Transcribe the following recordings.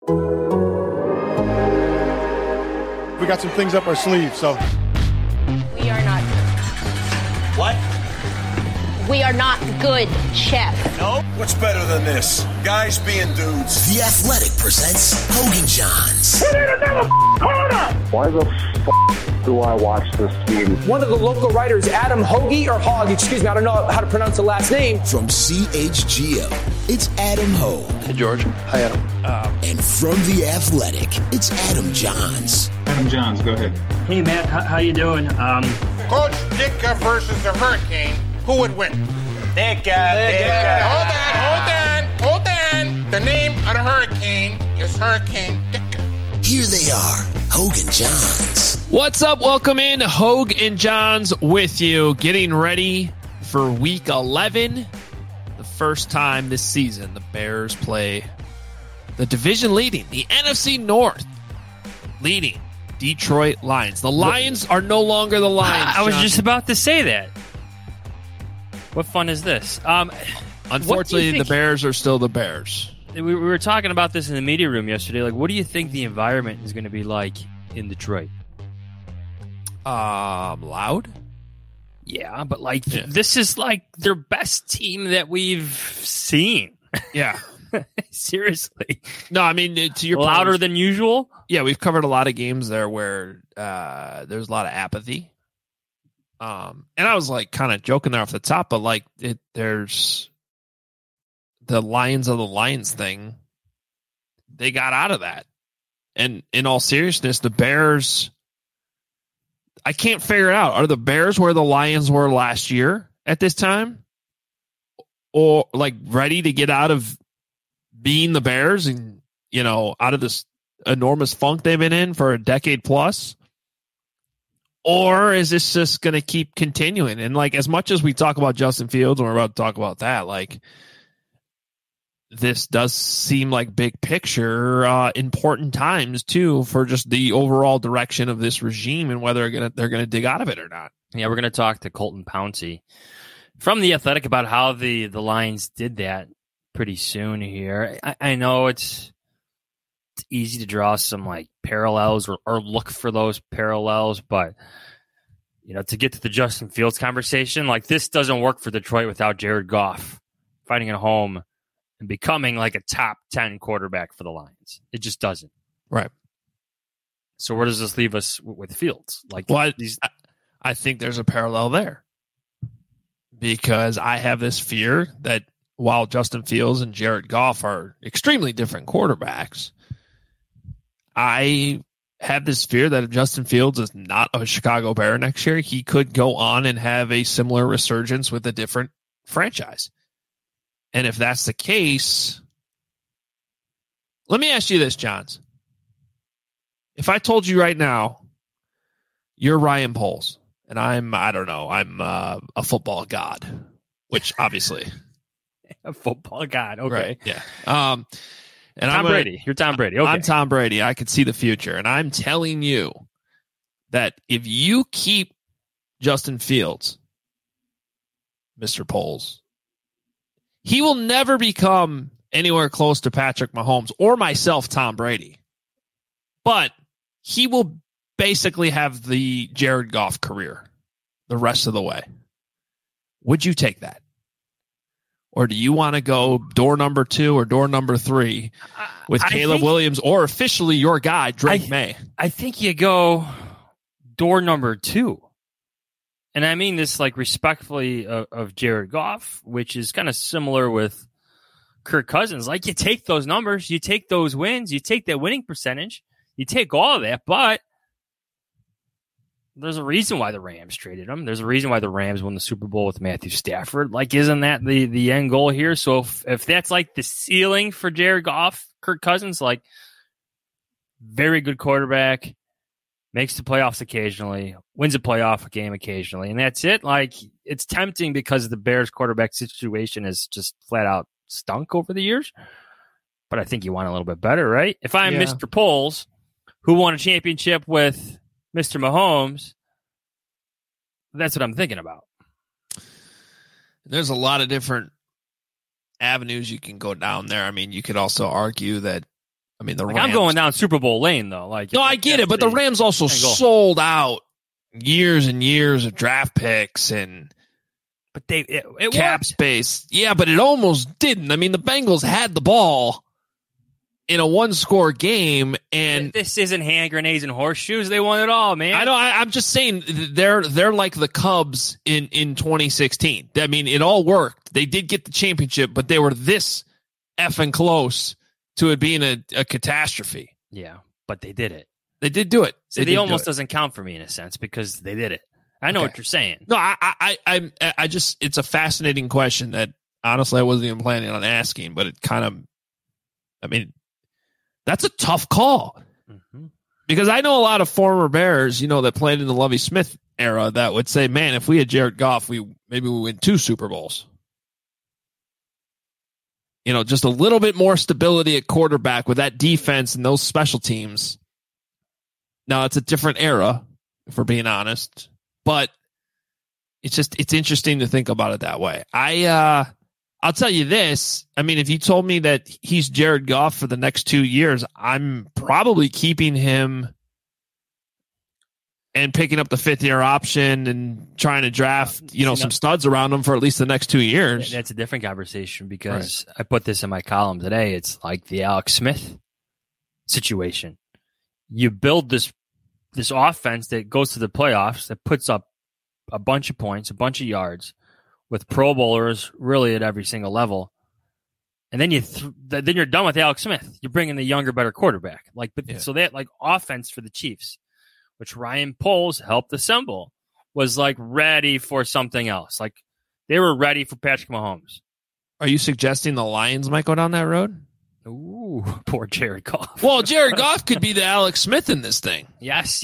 We got some things up our sleeve, so. We are not good. What? We are not good, Chef. No? What's better than this? Guys being dudes. The Athletic presents Hogan Johns. We need another corner! Why the do I watch this team? One of the local writers, Adam Hoagie, or Hogg, excuse me, I don't know how to pronounce the last name. From CHGO, it's Adam Hogue. Hey, George. Hi, Adam. And from The Athletic, it's Adam Johns. Adam Johns, go ahead. Hey, Matt, how you doing? Coach Ditka versus the Hurricane. Who would win? Ditka. Hold on. The name of the Hurricane is Hurricane Ditka. Here they are, Hogue and Johns. What's up? Welcome in. Hogue and Johns with you. Getting ready for Week 11. The first time this season the Bears play the division leading, the NFC North leading Detroit Lions. The Lions are no longer the Lions. I was just about to say that. What fun is this? Unfortunately, the Bears are still the Bears. We were talking about this in the media room yesterday. Like, what do you think the environment is going to be like in Detroit? Loud? Yeah, but this is like their best team that we've seen. Yeah. Seriously. No, I mean, to your louder point, than usual? Yeah, we've covered a lot of games there where there's a lot of apathy. And I was like kind of joking there off the top, but like there's the Lions of the Lions thing. They got out of that. And in all seriousness, the Bears, I can't figure it out. Are the Bears where the Lions were last year at this time? Or like ready to get out of being the Bears and, you know, out of this enormous funk they've been in for a decade plus? Or is this just going to keep continuing? And like, as much as we talk about Justin Fields, and we're about to talk about that, like, this does seem like big picture, important times too, for just the overall direction of this regime and whether they're going to dig out of it or not. Yeah, we're going to talk to Colton Pouncey from The Athletic about how the Lions did that pretty soon here. I know it's easy to draw some like parallels or look for those parallels, but you know, to get to the Justin Fields conversation, like this doesn't work for Detroit without Jared Goff fighting at home and becoming like a top 10 quarterback for the Lions. It just doesn't. Right. So where does this leave us with Fields? Like, well, I think there's a parallel there because I have this fear that while Justin Fields and Jared Goff are extremely different quarterbacks, I have this fear that if Justin Fields is not a Chicago Bear next year, he could go on and have a similar resurgence with a different franchise. And if that's the case, let me ask you this, Johns. If I told you right now, you're Ryan Poles, and I'm a football god, which obviously... a football god, okay. Right, yeah. And Tom Brady. You're Tom Brady. Okay. I'm Tom Brady. I could see the future. And I'm telling you that if you keep Justin Fields, Mr. Poles, he will never become anywhere close to Patrick Mahomes or myself, Tom Brady. But he will basically have the Jared Goff career the rest of the way. Would you take that? Or do you want to go door number 2 or door number 3 with Caleb Williams or officially your guy, Drake May? I think you go door number 2. And I mean this like respectfully of Jared Goff, which is kind of similar with Kirk Cousins. Like you take those numbers, you take those wins, you take that winning percentage, you take all of that, but there's a reason why the Rams traded him. There's a reason why the Rams won the Super Bowl with Matthew Stafford. Like, isn't that the end goal here? So if that's like the ceiling for Jared Goff, Kirk Cousins, like very good quarterback, makes the playoffs occasionally, wins a playoff game occasionally, and that's it. Like, it's tempting because the Bears quarterback situation is just flat out stunk over the years. But I think you want a little bit better, right? If I'm Mr. Poles, who won a championship with Mr. Mahomes, that's what I'm thinking about. There's a lot of different avenues you can go down there. I mean, you could also argue that I mean, the like Rams. I'm going down Super Bowl lane though. Like, no, I get it, but the Rams also sold out years and years of draft picks and but it cap worked. space. Yeah, but it almost didn't. I mean, the Bengals had the ball in a one-score game, and this isn't hand grenades and horseshoes. They won it all, man. I know. I'm just saying they're like the Cubs in 2016. I mean, it all worked. They did get the championship, but they were this effing close to it being a catastrophe. Yeah, but they did it. They did do it. So it almost doesn't count for me in a sense because they did it. I know what you're saying. No, I just, it's a fascinating question that honestly I wasn't even planning on asking, but it kind of, I mean, that's a tough call because I know a lot of former Bears, that played in the Lovie Smith era that would say, man, if we had Jared Goff, maybe we win 2 Super Bowls. Just a little bit more stability at quarterback with that defense and those special teams. Now, it's a different era, if we're being honest, but it's interesting to think about it that way. I'll tell you this. I mean, if you told me that he's Jared Goff for the next 2 years, I'm probably keeping him and picking up the 5th-year option and trying to draft, some studs around him for at least the next 2 years. That's a different conversation because I put this in my column today. It's like the Alex Smith situation. You build this offense that goes to the playoffs, that puts up a bunch of points, a bunch of yards, with Pro Bowlers really at every single level, and then then you're done with Alex Smith. You're bringing the younger, better quarterback. So that offense for the Chiefs, which Ryan Poles helped assemble, was ready for something else. Like they were ready for Patrick Mahomes. Are you suggesting the Lions might go down that road? Ooh, poor Jared Goff. Well, Jared Goff could be the Alex Smith in this thing. Yes.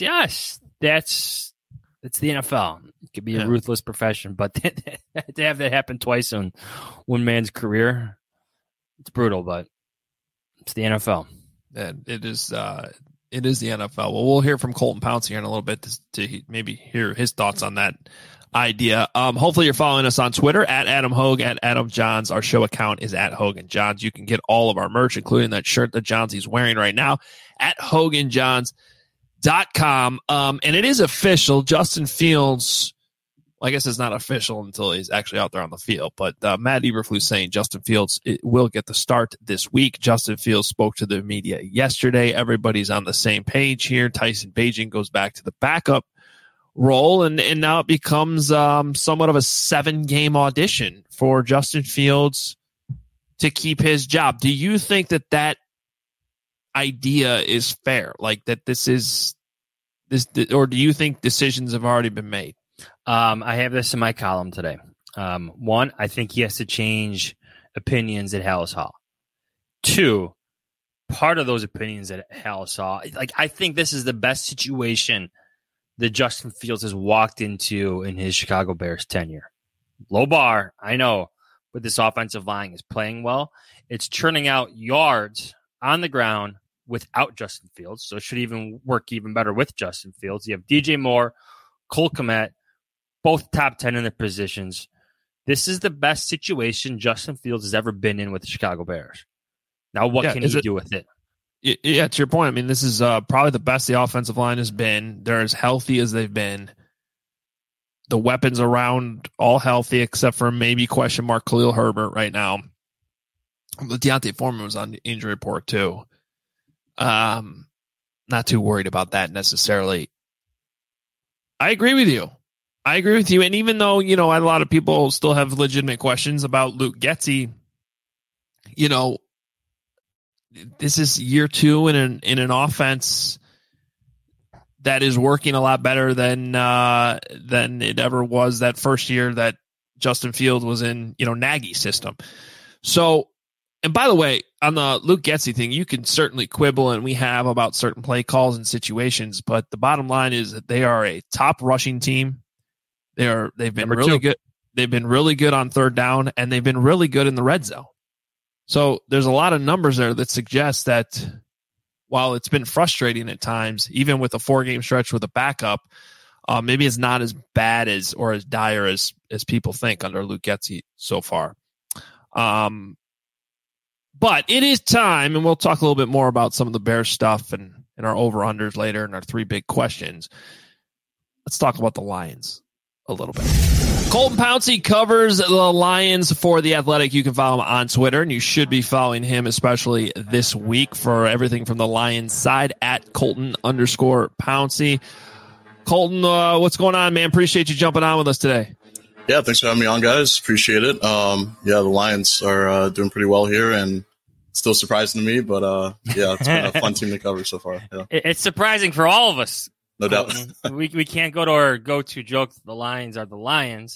It's the NFL. It could be a ruthless profession, but to have that happen twice in one man's career, it's brutal, but it's the NFL. And it is the NFL. Well, we'll hear from Colton Pounce here in a little bit to maybe hear his thoughts on that idea. Hopefully you're following us on Twitter at Adam Hogue, at Adam Johns. Our show account is at Hogan Johns. You can get all of our merch, including that shirt that Johnsy's wearing right now, at HoganJohns.com. And it is official. Justin Fields, well, I guess it's not official until he's actually out there on the field, but Matt Eberflus saying Justin Fields will get the start this week. Justin Fields spoke to the media yesterday. Everybody's on the same page here. Tyson Bagent goes back to the backup role, and now it becomes somewhat of a 7-game audition for Justin Fields to keep his job. Do you think that idea is fair? Like that this is this, or do you think decisions have already been made? I have this in my column today. One, I think he has to change opinions at Hallis Hall. 2, part of those opinions at Hallis Hall, I think this is the best situation that Justin Fields has walked into in his Chicago Bears tenure. Low bar, I know, but this offensive line is playing well. It's churning out yards on the ground without Justin Fields, so it should even work even better with Justin Fields. You have DJ Moore, Cole Kmet, both top 10 in their positions. This is the best situation Justin Fields has ever been in with the Chicago Bears. Now, what can he do with it? Yeah, to your point, I mean, this is probably the best the offensive line has been. They're as healthy as they've been. The weapons around all healthy except for maybe question mark Khalil Herbert right now. Deontay Foreman was on the injury report too. Not too worried about that necessarily. I agree with you. And even though, a lot of people still have legitimate questions about Luke Getsy, this is year 2 in an offense that is working a lot better than it ever was that first year that Justin Fields was in, Nagy's system. So, and by the way, on the Luke Getsy thing, you can certainly quibble, and we have, about certain play calls and situations, but the bottom line is that they are a top rushing team. They've been really good. They've been really good on third down, and they've been really good in the red zone. So there's a lot of numbers there that suggest that while it's been frustrating at times, even with a 4-game stretch with a backup, maybe it's not as bad as or as dire as people think under Luke Getsy so far. But it is time, and we'll talk a little bit more about some of the Bears stuff and our over-unders later and our 3 big questions. Let's talk about the Lions a little bit. Colton Pouncey covers the Lions for The Athletic. You can follow him on Twitter, and you should be following him, especially this week, for everything from the Lions side at Colton_Pouncey. Colton, what's going on, man? Appreciate you jumping on with us today. Yeah, thanks for having me on, guys. Appreciate it. The Lions are doing pretty well here, and still surprising to me, but it's been a fun team to cover so far. Yeah. It's surprising for all of us. No doubt. we can't go to our go-to joke. The Lions are the Lions.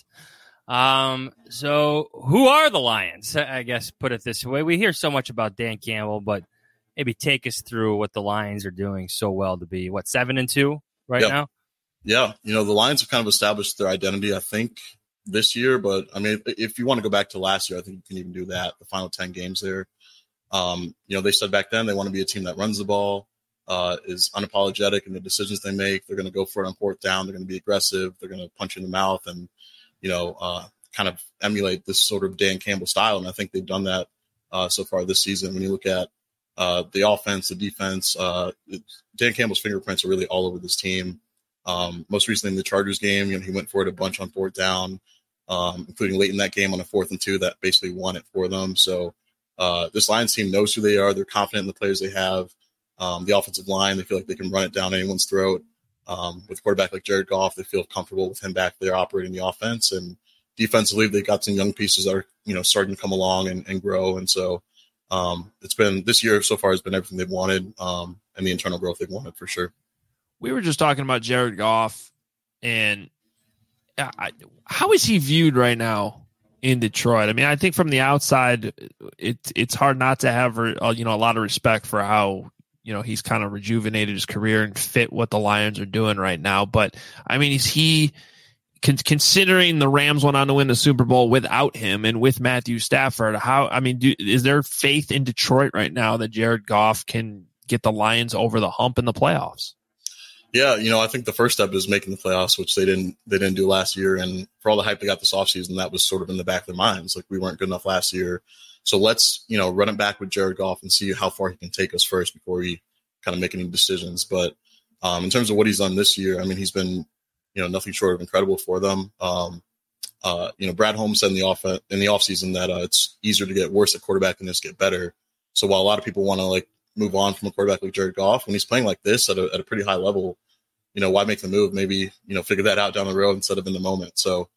So who are the Lions? I guess put it this way. We hear so much about Dan Campbell, but maybe take us through what the Lions are doing so well to be, 7-2 now? Yeah. The Lions have kind of established their identity, I think, this year. But, I mean, if you want to go back to last year, I think you can even do that, the final 10 games there. They said back then they want to be a team that runs the ball, is unapologetic in the decisions they make. They're going to go for it on 4th down. They're going to be aggressive. They're going to punch you in the mouth and, kind of emulate this sort of Dan Campbell style. And I think they've done that so far this season. When you look at the offense, the defense, Dan Campbell's fingerprints are really all over this team. Most recently in the Chargers game, he went for it a bunch on 4th down, including late in that game on a 4th and 2 that basically won it for them. So this Lions team knows who they are. They're confident in the players they have. The offensive line, they feel like they can run it down anyone's throat. With a quarterback like Jared Goff, they feel comfortable with him back there operating the offense. And defensively, they've got some young pieces that are, starting to come along and grow. And so it's been this year so far has been everything they've wanted, and the internal growth they've wanted for sure. We were just talking about Jared Goff, and how is he viewed right now in Detroit? I mean, I think from the outside, it's hard not to have a lot of respect for how he's kind of rejuvenated his career and fit what the Lions are doing right now. But I mean, is he considering the Rams went on to win the Super Bowl without him and with Matthew Stafford? Is there faith in Detroit right now that Jared Goff can get the Lions over the hump in the playoffs? Yeah, I think the first step is making the playoffs, which they didn't do last year. And for all the hype they got this offseason, that was sort of in the back of their minds. Like, we weren't good enough last year. So let's, run it back with Jared Goff and see how far he can take us first before we kind of make any decisions. But in terms of what he's done this year, I mean, he's been, nothing short of incredible for them. Brad Holmes said in the offseason that it's easier to get worse at quarterback than just get better. So while a lot of people want to move on from a quarterback like Jared Goff, when he's playing like this at a pretty high level, why make the move? Maybe, figure that out down the road instead of in the moment. So,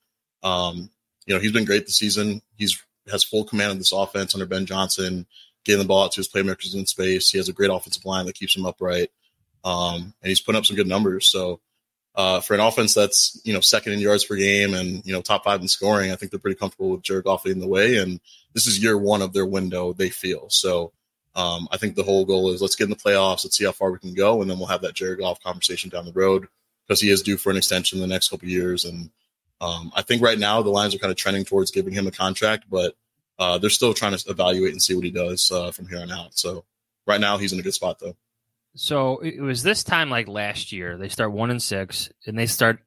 he's been great this season. Has full command of this offense under Ben Johnson, getting the ball out to his playmakers in space. He has a great offensive line that keeps him upright. And he's putting up some good numbers. So for an offense that's, second in yards per game and, top 5 in scoring, I think they're pretty comfortable with Jared Goff leading the way. And this is year 1 of their window, they feel. So I think the whole goal is let's get in the playoffs. Let's see how far we can go. And then we'll have that Jared Goff conversation down the road because he is due for an extension in the next couple of years. And I think right now the Lions are kind of trending towards giving him a contract, but they're still trying to evaluate and see what he does from here on out. So right now he's in a good spot, though. So it was this time like last year. They start 1-6, and they start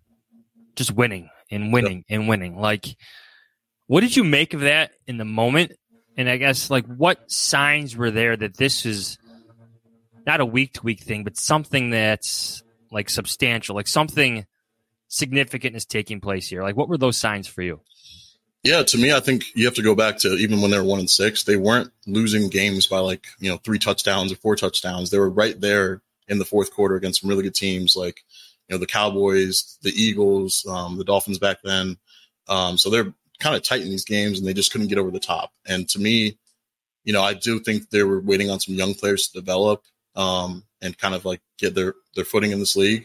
just winning and winning and winning. Like, what did you make of that in the moment? And I guess, what signs were there that this is not a week-to-week thing, but something that's, substantial, something significant is taking place here? What were those signs for you? Yeah, to me, I think you have to go back to even when they were 1-6, they weren't losing games by 3 touchdowns or 4 touchdowns. They were right there in the fourth quarter against some really good teams like, the Cowboys, the Eagles, the Dolphins back then. So they're kind of tight in these games and they just couldn't get over the top. And to me, I do think they were waiting on some young players to develop and kind of get their footing in this league.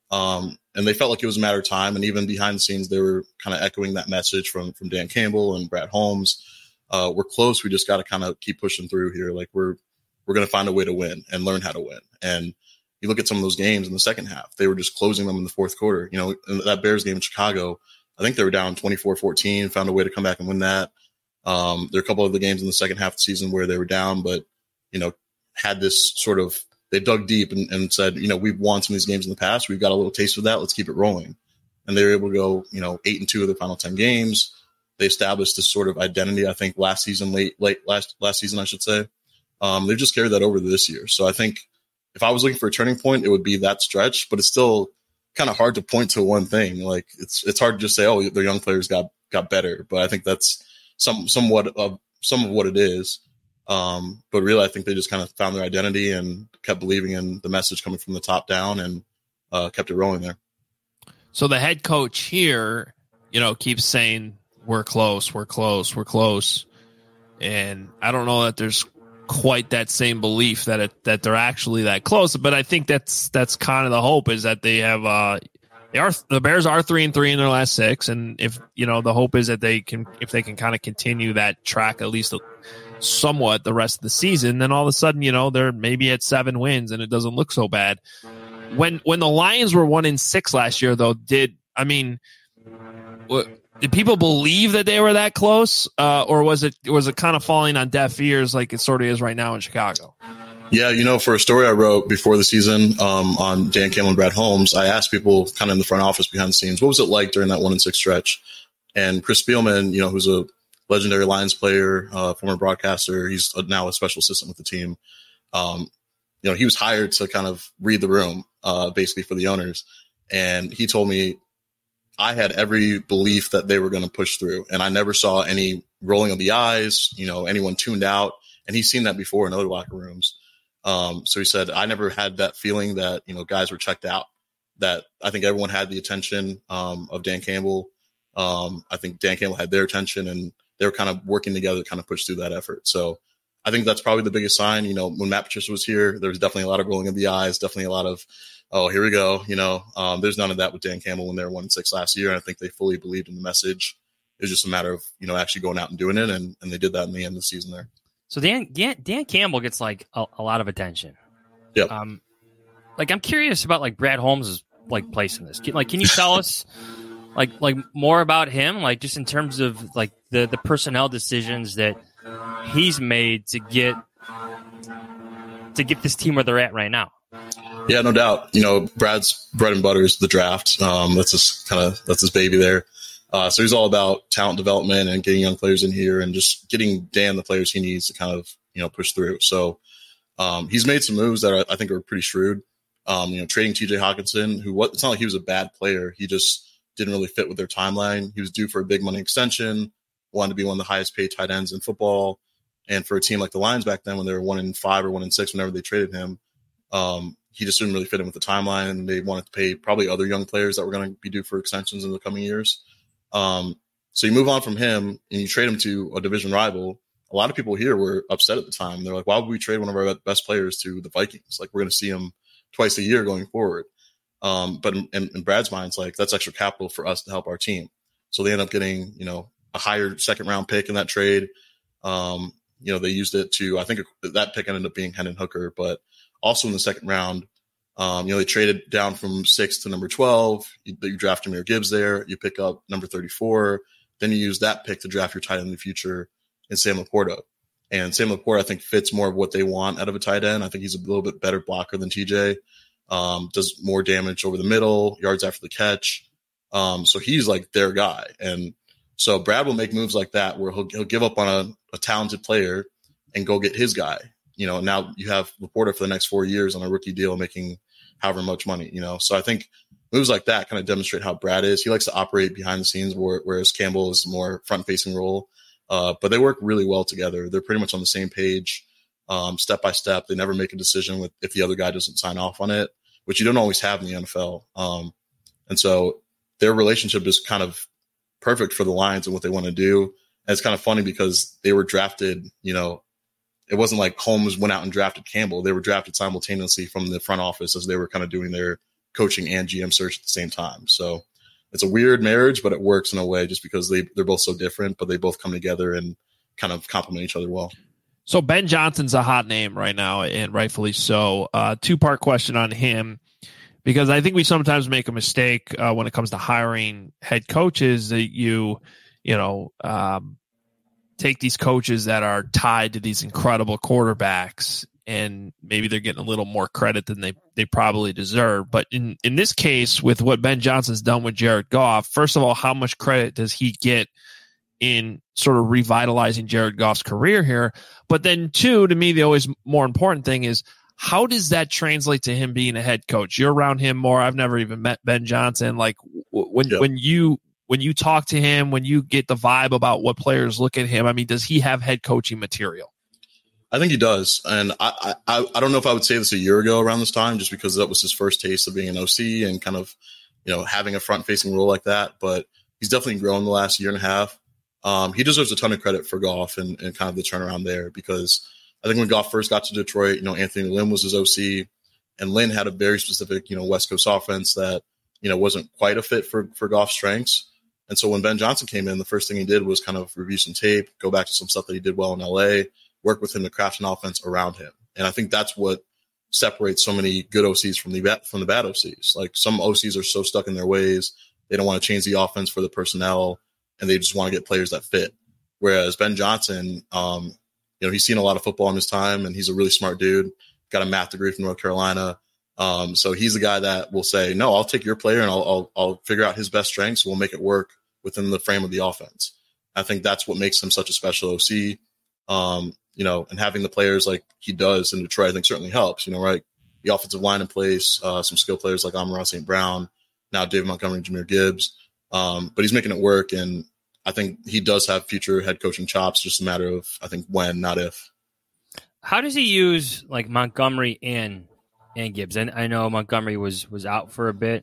And they felt like it was a matter of time. And even behind the scenes, they were kind of echoing that message from Dan Campbell and Brad Holmes. We're close. We just got to kind of keep pushing through here. We're going to find a way to win and learn how to win. And you look at some of those games in the second half, they were just closing them in the fourth quarter. In that Bears game in Chicago, I think they were down 24-14, found a way to come back and win that. There are a couple of the games in the second half of the season where they were down, but, had this sort of, they dug deep and said, we've won some of these games in the past. We've got a little taste of that. Let's keep it rolling. And they were able to go, 8-2 of the final 10 games. They established this sort of identity, I think, last season, last season, I should say. They've just carried that over to this year. So I think if I was looking for a turning point, it would be that stretch, but it's still kind of hard to point to one thing. Like it's hard to just say, oh, their young players got better, but I think that's somewhat of what it is. But really, I think they just kind of found their identity and kept believing in the message coming from the top down and kept it rolling there. So the head coach here, keeps saying we're close. And I don't know that there's quite that same belief that they're actually that close, but I think that's kind of the hope, is that they have the Bears are 3-3 in their last 6, and if the hope is that if they can kind of continue that track at least somewhat the rest of the season, then all of a sudden they're maybe at 7 wins and it doesn't look so bad. When the Lions were 1-6 last year, though, did people believe that they were that close, or was it kind of falling on deaf ears like it sort of is right now in Chicago? Yeah, for a story I wrote before the season on Dan Campbell and Brad Holmes, I asked people kind of in the front office behind the scenes, what was it like during that 1-6 stretch? And Chris Spielman, who's a legendary Lions player, former broadcaster, he's now a special assistant with the team. He was hired to kind of read the room, basically for the owners. And he told me, I had every belief that they were going to push through, and I never saw any rolling of the eyes, anyone tuned out. And he's seen that before in other locker rooms. So he said, I never had that feeling that, guys were checked out, that I think everyone had the attention of Dan Campbell. I think Dan Campbell had their attention, and they were kind of working together to kind of push through that effort. So I think that's probably the biggest sign. When Matt Patricia was here, there was definitely a lot of rolling of the eyes, definitely a lot of, oh, here we go. There's none of that with Dan Campbell when they were 1-6 last year. And I think they fully believed in the message. It was just a matter of, actually going out and doing it. And they did that in the end of the season there. So Dan Campbell gets like a lot of attention. Yep. I'm curious about like Brad Holmes' like place in this. Can you tell us like more about him? Like just in terms of like the personnel decisions that he's made to get this team where they're at right now. Yeah, no doubt. Brad's bread and butter is the draft. That's his baby there. So he's all about talent development and getting young players in here and just getting Dan the players he needs to kind of, push through. So he's made some moves that I think are pretty shrewd. Trading TJ Hawkinson, it's not like he was a bad player. He just didn't really fit with their timeline. He was due for a big money extension, wanted to be one of the highest paid tight ends in football. And for a team like the Lions back then, when they were 1-5 or 1-6, whenever they traded him, he just didn't really fit in with the timeline, and they wanted to pay probably other young players that were going to be due for extensions in the coming years. So you move on from him and you trade him to a division rival. A lot of people here were upset at the time. They're like, why would we trade one of our best players to the Vikings? Like, we're going to see him twice a year going forward. But in Brad's mind, it's like, that's extra capital for us to help our team. So they end up getting, a higher second round pick in that trade. They used it to, I think that pick ended up being Hendon Hooker, but also in the second round, they traded down from 6 to number 12. You draft Jahmyr Gibbs there. You pick up number 34. Then you use that pick to draft your tight end in the future in Sam Laporta. And Sam Laporta, I think, fits more of what they want out of a tight end. I think he's a little bit better blocker than TJ. Does more damage over the middle, yards after the catch. So he's like their guy. And so Brad will make moves like that where he'll give up on a talented player and go get his guy. Now you have Laporta for the next 4 years on a rookie deal making however much money, So I think moves like that kind of demonstrate how Brad is. He likes to operate behind the scenes, whereas Campbell is more front-facing role. But they work really well together. They're pretty much on the same page, step by step. They never make a decision if the other guy doesn't sign off on it, which you don't always have in the NFL. And so their relationship is kind of perfect for the Lions and what they want to do. And it's kind of funny because they were drafted, it wasn't like Holmes went out and drafted Campbell. They were drafted simultaneously from the front office as they were kind of doing their coaching and GM search at the same time. So it's a weird marriage, but it works in a way just because they're both so different, but they both come together and kind of complement each other well. So Ben Johnson's a hot name right now, and rightfully so. Two-part question on him, because I think we sometimes make a mistake when it comes to hiring head coaches that you take these coaches that are tied to these incredible quarterbacks, and maybe they're getting a little more credit than they probably deserve. But in this case, with what Ben Johnson's done with Jared Goff, first of all, how much credit does he get in sort of revitalizing Jared Goff's career here. But then two, to me, the always more important thing is, how does that translate to him being a head coach? You're around him more. I've never even met Ben Johnson. Like when you talk to him, when you get the vibe about what players look at him, I mean, does he have head coaching material? I think he does. And I don't know if I would say this a year ago around this time, just because that was his first taste of being an OC and kind of, having a front facing role like that. But he's definitely grown the last year and a half. He deserves a ton of credit for Goff and kind of the turnaround there, because I think when Goff first got to Detroit, Anthony Lynn was his OC, and Lynn had a very specific, West Coast offense that, wasn't quite a fit for Goff's strengths. And so when Ben Johnson came in, the first thing he did was kind of review some tape, go back to some stuff that he did well in LA, work with him to craft an offense around him. And I think that's what separates so many good OCs from the bad OCs. Like, some OCs are so stuck in their ways, they don't want to change the offense for the personnel, and they just want to get players that fit. Whereas Ben Johnson, he's seen a lot of football in his time, and he's a really smart dude, got a math degree from North Carolina. So he's the guy that will say, no, I'll take your player and I'll figure out his best strengths. We'll make it work within the frame of the offense. I think that's what makes him such a special OC. And having the players like he does in Detroit, I think certainly helps, right? The offensive line in place, some skill players like Amon-Ra St. Brown, now David Montgomery and Jahmyr Gibbs. But he's making it work. And I think he does have future head coaching chops, just a matter of, I think, when, not if. How does he use like Montgomery and Gibbs? And I know Montgomery was out for a bit,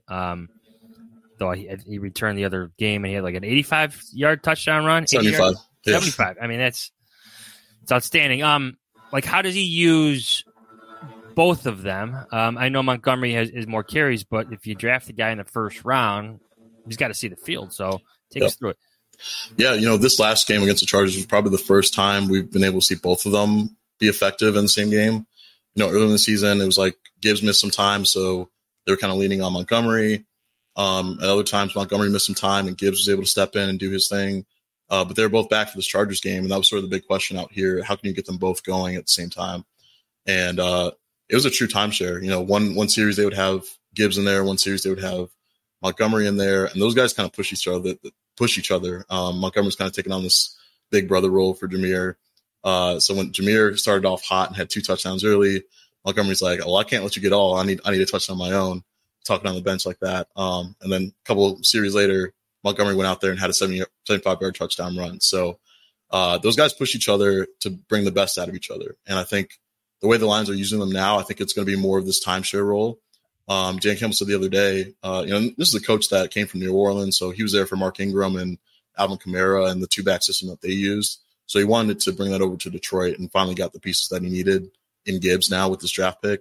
though he returned the other game and he had like an 85-yard touchdown run. 75. Yeah. 75. I mean, it's outstanding. Like, how does he use both of them? I know Montgomery is more carries, but if you draft a guy in the first round, he's got to see the field. So take us through it. Yeah, this last game against the Chargers was probably the first time we've been able to see both of them be effective in the same game. Early in the season, it was like Gibbs missed some time, so they were kind of leaning on Montgomery. At other times, Montgomery missed some time, and Gibbs was able to step in and do his thing. But they were both back for this Chargers game, and that was sort of the big question out here. How can you get them both going at the same time? And it was a true timeshare. One series they would have Gibbs in there, one series they would have Montgomery in there, and those guys kind of push each other. Montgomery's kind of taking on this big brother role for Jahmyr. So when Jahmyr started off hot and had 2 touchdowns early, Montgomery's like, "Oh, I can't let you get all. I need a touchdown on my own." Talking on the bench like that. And then a couple series later, Montgomery went out there and had a 75-yard touchdown run. So those guys push each other to bring the best out of each other. And I think the way the Lions are using them now, I think it's going to be more of this timeshare role. Jan Campbell said the other day, this is a coach that came from New Orleans, so he was there for Mark Ingram and Alvin Kamara and the 2-back system that they used. So he wanted to bring that over to Detroit and finally got the pieces that he needed in Gibbs now with this draft pick.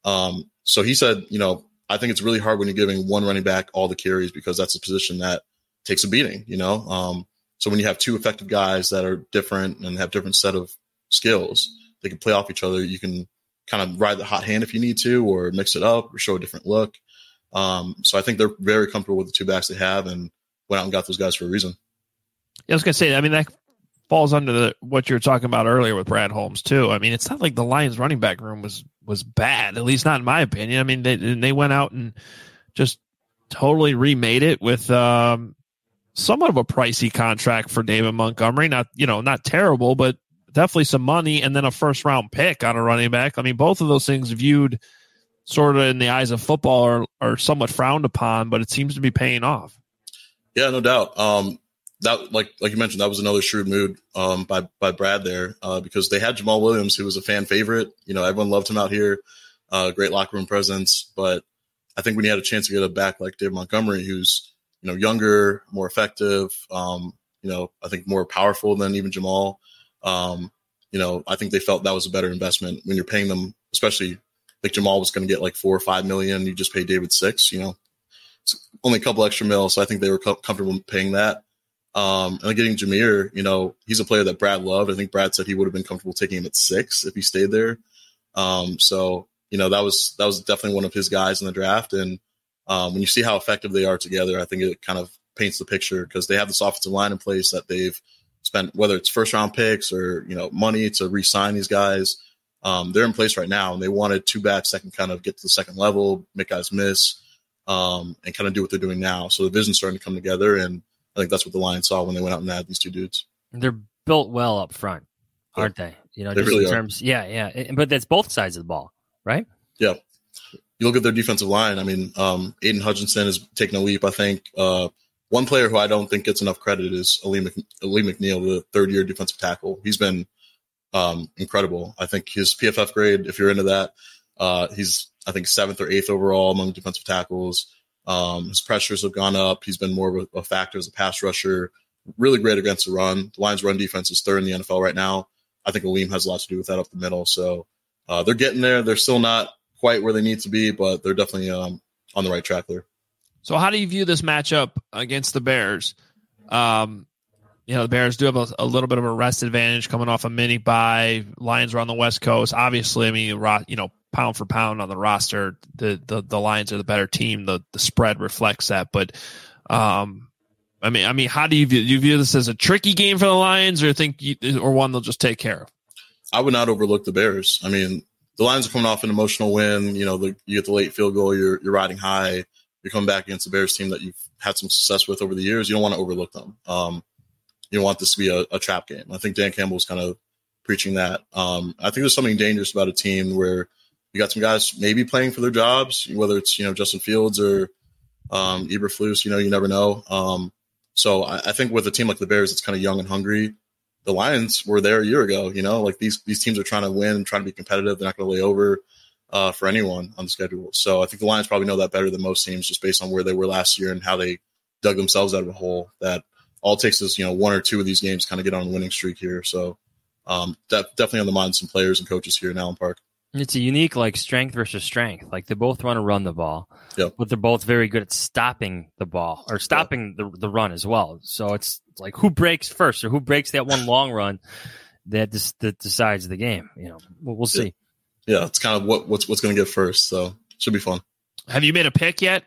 So he said, I think it's really hard when you're giving one running back all the carries, because that's a position that takes a beating, So when you have 2 effective guys that are different and have different set of skills, they can play off each other. You can kind of ride the hot hand if you need to, or mix it up or show a different look. So I think they're very comfortable with the 2 backs they have and went out and got those guys for a reason. Yeah, I was going to say, I mean, that falls under what you were talking about earlier with Brad Holmes too. I mean, it's not like the Lions running back room was bad, at least not in my opinion. I mean, they went out and just totally remade it with somewhat of a pricey contract for David Montgomery. Not terrible, but definitely some money, and then a first-round pick on a running back. I mean, both of those things viewed sort of in the eyes of football are somewhat frowned upon, but it seems to be paying off. Yeah, no doubt. That, like you mentioned, that was another shrewd move by Brad there, because they had Jamal Williams, who was a fan favorite. Everyone loved him out here, great locker room presence. But I think when you had a chance to get a back like David Montgomery, who's younger, more effective, I think more powerful than even Jamal. I think they felt that was a better investment when you're paying them, especially like Jamal was going to get like $4 or $5 million. You just pay David $6 million. It's only a couple extra mil, so I think they were comfortable paying that. And getting Jahmyr, he's a player that Brad loved. I think Brad said he would have been comfortable taking him at 6 if he stayed there. So that was definitely one of his guys in the draft. And when you see how effective they are together, I think it kind of paints the picture, because they have this offensive line in place that they've spent, whether it's first round picks or money to re-sign these guys. They're in place right now, and they wanted 2 backs that can kind of get to the second level, make guys miss, and kind of do what they're doing now. So the vision's starting to come together, and I think that's what the Lions saw when they went out and had these two dudes. They're built well up front, aren't they? You know, they just really in terms, yeah. But that's both sides of the ball, right? Yeah. You look at their defensive line. I mean, Aiden Hutchinson has taken a leap. I think one player who I don't think gets enough credit is Ali McNeil, the third-year defensive tackle. He's been incredible. I think his PFF grade, if you're into that, he's, I think, 7th or 8th overall among defensive tackles. His pressures have gone up. He's been more of a factor as a pass rusher. Really great against the run. The Lions' run defense is 3rd in the NFL right now. I think Aleem has a lot to do with that up the middle. So they're getting there. They're still not quite where they need to be, but they're definitely on the right track there. So how do you view this matchup against the Bears? The Bears do have a little bit of a rest advantage coming off a mini bye. Lions are on the West Coast. Obviously, I mean, pound for pound on the roster, the Lions are the better team. The spread reflects that. But, I mean, how do you view this as a tricky game for the Lions, or one they'll just take care of? I would not overlook the Bears. I mean, the Lions are coming off an emotional win. You know, you get the late field goal. You're riding high. You're coming back against the Bears team that you've had some success with over the years. You don't want to overlook them. You don't want this to be a trap game. I think Dan Campbell's kind of preaching that. I think there's something dangerous about a team where you got some guys maybe playing for their jobs, whether it's, Justin Fields or Eberflus, you never know. So I think with a team like the Bears, it's kind of young and hungry. The Lions were there a year ago, like these teams are trying to win and trying to be competitive. They're not going to lay over for anyone on the schedule. So I think the Lions probably know that better than most teams just based on where they were last year and how they dug themselves out of a hole. That all it takes is, 1 or 2 of these games kind of get on a winning streak here. So definitely on the mind of some players and coaches here in Allen Park. It's a unique, strength versus strength. They both want to run the ball, yep. But they're both very good at stopping the ball or stopping the run as well. So it's like who breaks first or who breaks that one long run that decides the game. We'll see. Yeah, it's kind of what's going to get first. So should be fun. Have you made a pick yet?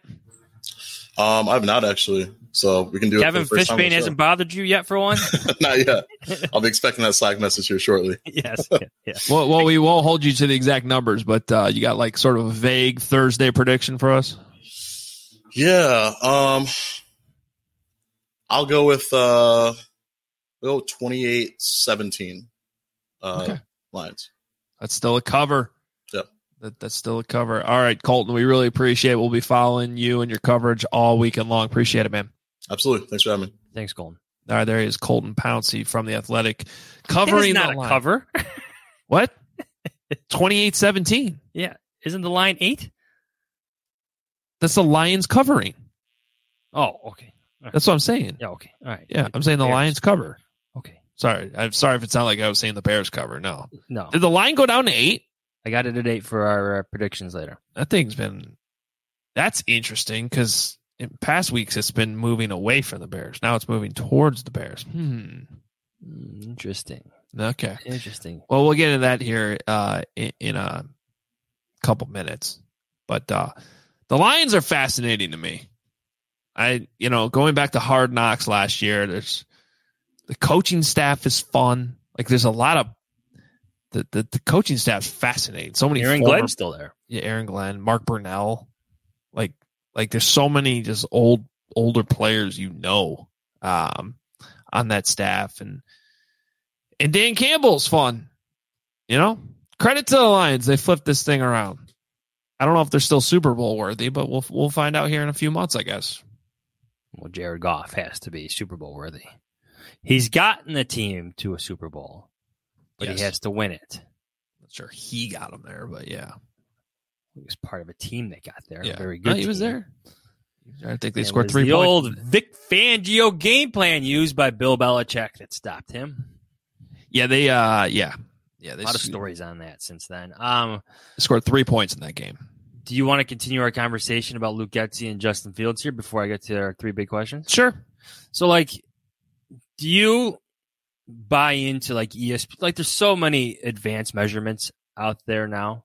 I have not actually. So we can do Kevin it. Kevin Fishbane hasn't bothered you yet for one? Not yet. I'll be expecting that Slack message here shortly. Yes. Yeah. Well, we won't hold you to the exact numbers, but you got sort of a vague Thursday prediction for us? Yeah. I'll go with 28-17 okay. Lions. That's still a cover. Yep. That's still a cover. All right, Colton, we really appreciate it. We'll be following you and your coverage all weekend long. Appreciate it, man. Absolutely. Thanks for having me. Thanks, Colton. All right, there he is, Colton Pouncey from The Athletic. Covering not the line. Cover. What? 28-17. Yeah. Isn't the line 8? That's the Lions covering. Oh, okay. Right. That's what I'm saying. Yeah, okay. All right. Yeah, I'm saying the Lions cover. Okay. Sorry. I'm sorry if it sounded like I was saying the Bears cover. No. No. Did the line go down to 8? I got it at 8 for our predictions later. That's interesting because in past weeks it's been moving away from the Bears. Now it's moving towards the Bears. Interesting. Okay. Interesting. Well, we'll get into that here in a couple minutes. But the Lions are fascinating to me. Going back to Hard Knocks last year, there's the coaching staff is fun. There's a lot of the coaching staff's fascinating. So many. Aaron Glenn's still there. Yeah, Aaron Glenn, Mark Burnell. There's so many just older players on that staff, and Dan Campbell's fun. Credit to the Lions, they flipped this thing around. I don't know if they're still Super Bowl worthy, but we'll find out here in a few months, I guess. Well, Jared Goff has to be Super Bowl worthy. He's gotten the team to a Super Bowl, but yes. He has to win it. Not sure he got them there, but yeah. He was part of a team that got there. Yeah. A very good he was team. there. I think they scored 3 points. The old Vic Fangio game plan used by Bill Belichick that stopped him. Yeah, they a lot of stories on that since then. They scored 3 points in that game. Do you want to continue our conversation about Luke Getsy and Justin Fields here before I get to our 3 big questions? Sure. So, do you buy into ESPN? There's so many advanced measurements out there now.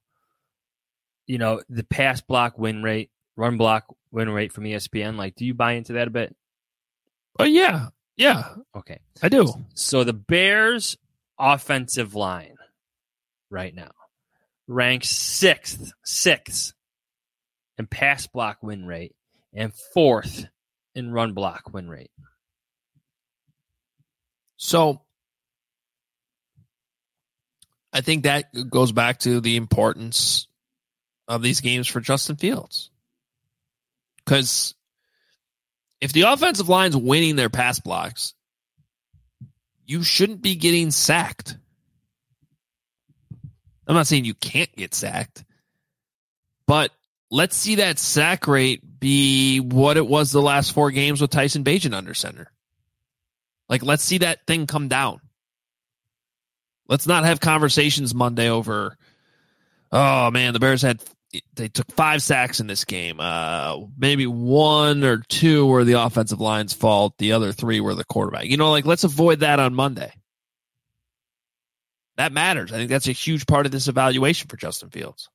The pass block win rate, run block win rate from ESPN. Do you buy into that a bit? Oh, yeah. Yeah. Okay. I do. So the Bears offensive line right now ranks sixth in pass block win rate and 4th in run block win rate. So I think that goes back to the importance of these games for Justin Fields. Because if the offensive line's winning their pass blocks, you shouldn't be getting sacked. I'm not saying you can't get sacked, but let's see that sack rate be what it was the last 4 games with Tyson Bagent under center. Like, let's see that thing come down. Let's not have conversations Monday over, oh, man, the Bears they took 5 sacks in this game. Maybe 1 or 2 were the offensive line's fault. The other 3 were the quarterback. Let's avoid that on Monday. That matters. I think that's a huge part of this evaluation for Justin Fields.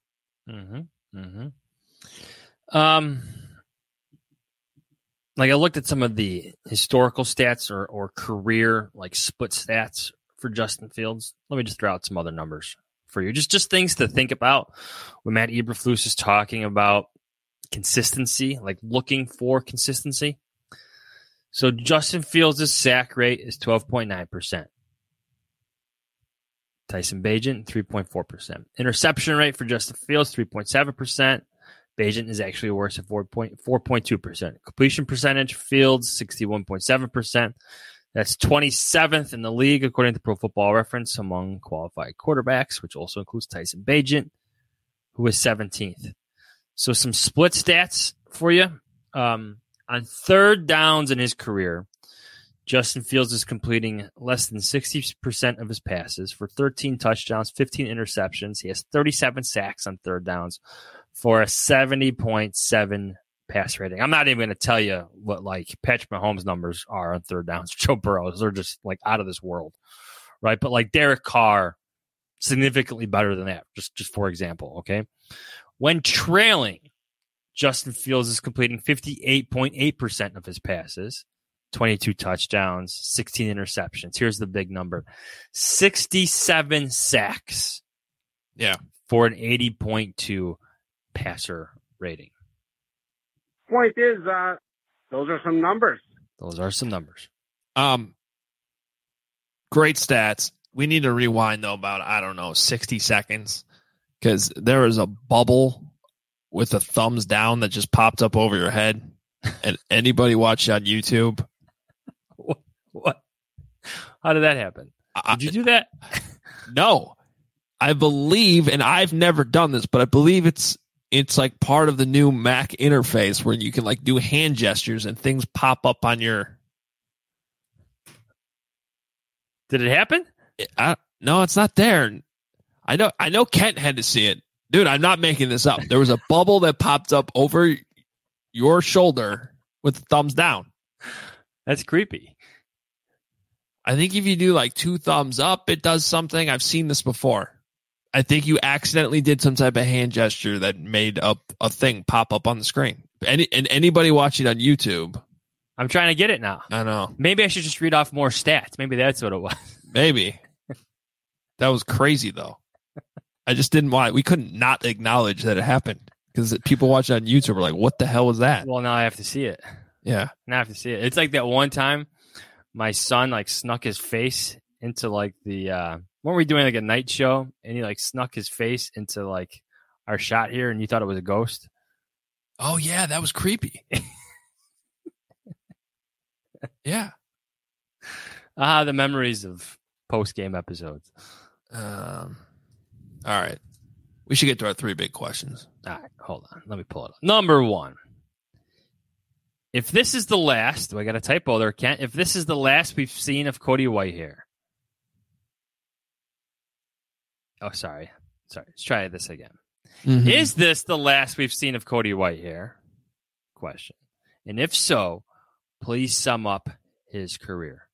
Like, I looked at some of the historical stats or career split stats for Justin Fields. Let me just throw out some other numbers for you. Just things to think about when Matt Eberflus is talking about consistency, like looking for consistency. So Justin Fields' sack rate is 12.9%. Tyson Bagent, 3.4%. Interception rate for Justin Fields, 3.7%. Bagent is actually worse at 4.2%. Completion percentage, Fields, 61.7%. That's 27th in the league, according to Pro Football Reference, among qualified quarterbacks, which also includes Tyson Bagent, who is 17th. So some split stats for you. On third downs in his career, Justin Fields is completing less than 60% of his passes for 13 touchdowns, 15 interceptions. He has 37 sacks on third downs for a 70.7 pass rating. I'm not even going to tell you what Patrick Mahomes numbers are on third downs. Joe Burrow, they're just out of this world, right? But Derek Carr, significantly better than that. Just for example, okay. When trailing, Justin Fields is completing 58.8% of his passes, 22 touchdowns, 16 interceptions. Here's the big number: 67 sacks. Yeah, for an 80.2 passer rating. Point is, those are some numbers. Great stats. We need to rewind, though, about, 60 seconds, because there was a bubble with a thumbs down that just popped up over your head. And anybody watch on YouTube? What? How did that happen? Did you do that? No. I believe, and I've never done this, but I believe it's part of the new Mac interface where you can do hand gestures and things pop up on your. Did it happen? No, it's not there. I know Kent had to see it. Dude, I'm not making this up. There was a bubble that popped up over your shoulder with the thumbs down. That's creepy. I think if you do 2 thumbs up, it does something. I've seen this before. I think you accidentally did some type of hand gesture that made up a thing pop up on the screen. Anybody watching on YouTube. I'm trying to get it now. I know. Maybe I should just read off more stats. Maybe that's what it was. Maybe. That was crazy, though. I just didn't want. We couldn't not acknowledge that it happened because people watching on YouTube were like, "What the hell was that?" Well, now I have to see it. Yeah, now I have to see it. It's like that one time my son snuck his face into the. Weren't we doing a night show, and he snuck his face into our shot here, and you thought it was a ghost? Oh yeah, that was creepy. Yeah. The memories of post-game episodes. All right. We should get to our 3 big questions. All right, hold on. Let me pull it up. Number 1. If this is the last, do I got a typo there, Kent? If this is the last we've seen of Cody Whitehair. Oh, sorry. Let's try this again. Mm-hmm. Is this the last we've seen of Cody Whitehair? Question. And if so, please sum up his career.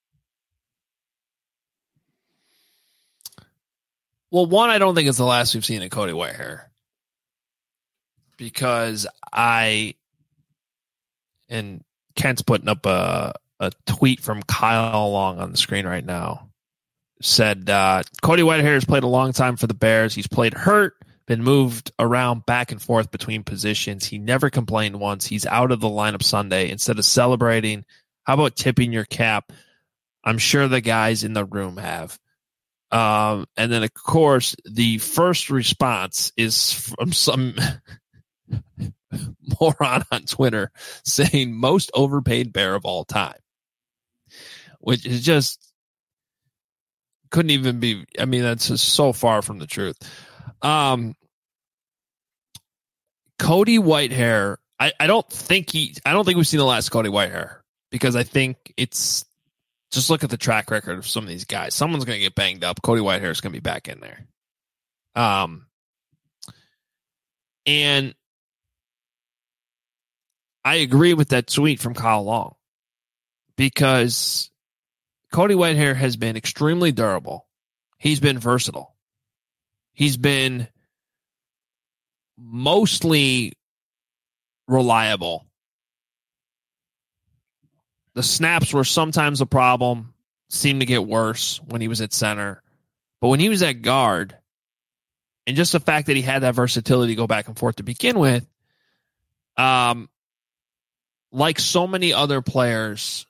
Well, one, I don't think it's the last we've seen of Cody Whitehair. Because and Kent's putting up a tweet from Kyle Long on the screen right now. Said, Cody Whitehair has played a long time for the Bears. He's played hurt, been moved around back and forth between positions. He never complained once. He's out of the lineup Sunday. Instead of celebrating, how about tipping your cap? I'm sure the guys in the room have. And then, of course, the first response is from some moron on Twitter saying most overpaid Bear of all time, which is just couldn't even be. I mean, that's just so far from the truth. Cody Whitehair, I don't think we've seen the last Cody Whitehair, because I think it's just look at the track record of some of these guys. Someone's going to get banged up. Cody Whitehair is going to be back in there. And I agree with that tweet from Kyle Long, because Cody Whitehair has been extremely durable. He's been versatile. He's been mostly reliable. The snaps were sometimes a problem, seemed to get worse when he was at center. But when he was at guard, and just the fact that he had that versatility to go back and forth to begin with, like so many other players,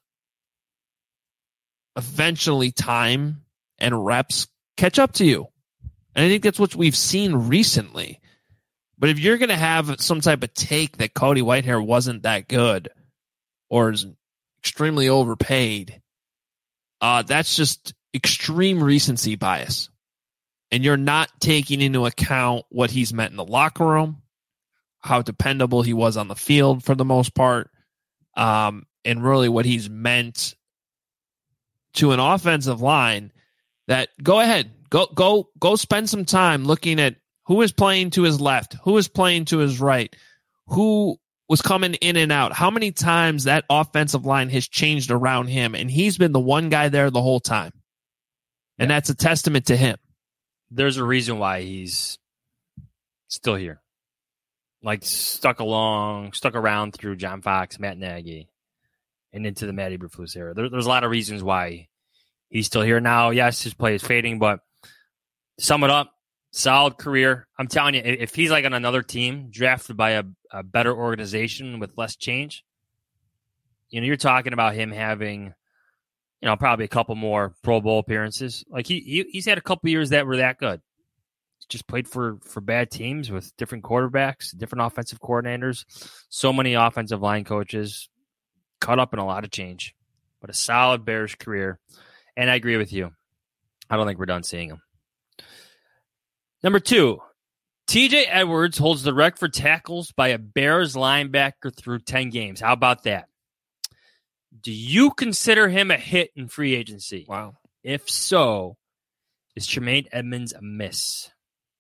eventually time and reps catch up to you. And I think that's what we've seen recently. But if you're going to have some type of take that Cody Whitehair wasn't that good or is extremely overpaid, that's just extreme recency bias. And you're not taking into account what he's meant in the locker room, how dependable he was on the field for the most part, and really what he's meant to an offensive line. That go ahead, go spend some time looking at who is playing to his left, who is playing to his right, who was coming in and out, how many times that offensive line has changed around him, and he's been the one guy there the whole time. And that's a testament to him. There's a reason why he's still here. Like stuck around through John Fox, Matt Nagy, and into the Matt Eberflus era. There's a lot of reasons why he's still here now. Yes, his play is fading, but to sum it up, solid career. I'm telling you, if he's like on another team, drafted by a better organization with less change, you're talking about him having, probably a couple more Pro Bowl appearances. Like he's had a couple years that were that good. He's just played for bad teams with different quarterbacks, different offensive coordinators, so many offensive line coaches, caught up in a lot of change. But a solid Bears career. And I agree with you. I don't think we're done seeing him. Number 2, TJ Edwards holds the record for tackles by a Bears linebacker through 10 games. How about that? Do you consider him a hit in free agency? Wow. If so, is Tremaine Edmonds a miss?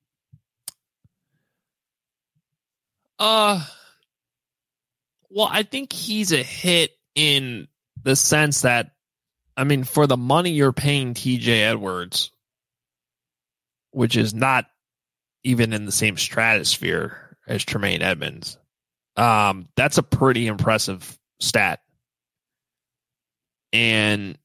Well, I think he's a hit in the sense that, for the money you're paying TJ Edwards, which is not even in the same stratosphere as Tremaine Edmonds, that's a pretty impressive stat. And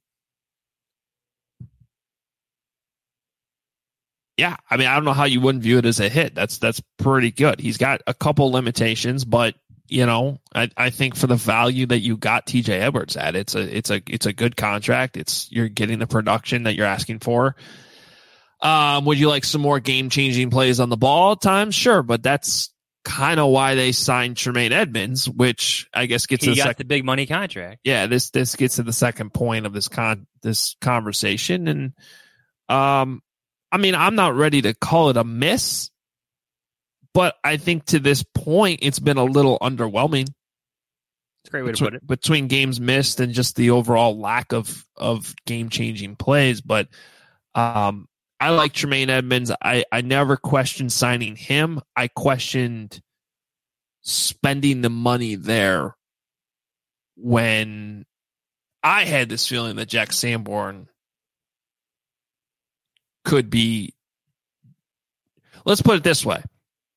yeah, I don't know how you wouldn't view it as a hit. That's pretty good. He's got a couple limitations, but I think for the value that you got TJ Edwards at, it's a good contract. You're getting the production that you're asking for. Would you like some more game-changing plays on the ball at times? Sure, but that's kind of why they signed Tremaine Edmonds, which I guess gets the big money contract. Yeah, this gets to the second point of this conversation, and I'm not ready to call it a miss, but I think to this point it's been a little underwhelming. It's a great way to put it. Between games missed and just the overall lack of game-changing plays, but I like Tremaine Edmonds. I never questioned signing him. I questioned spending the money there when I had this feeling that Jack Sanborn could be. Let's put it this way.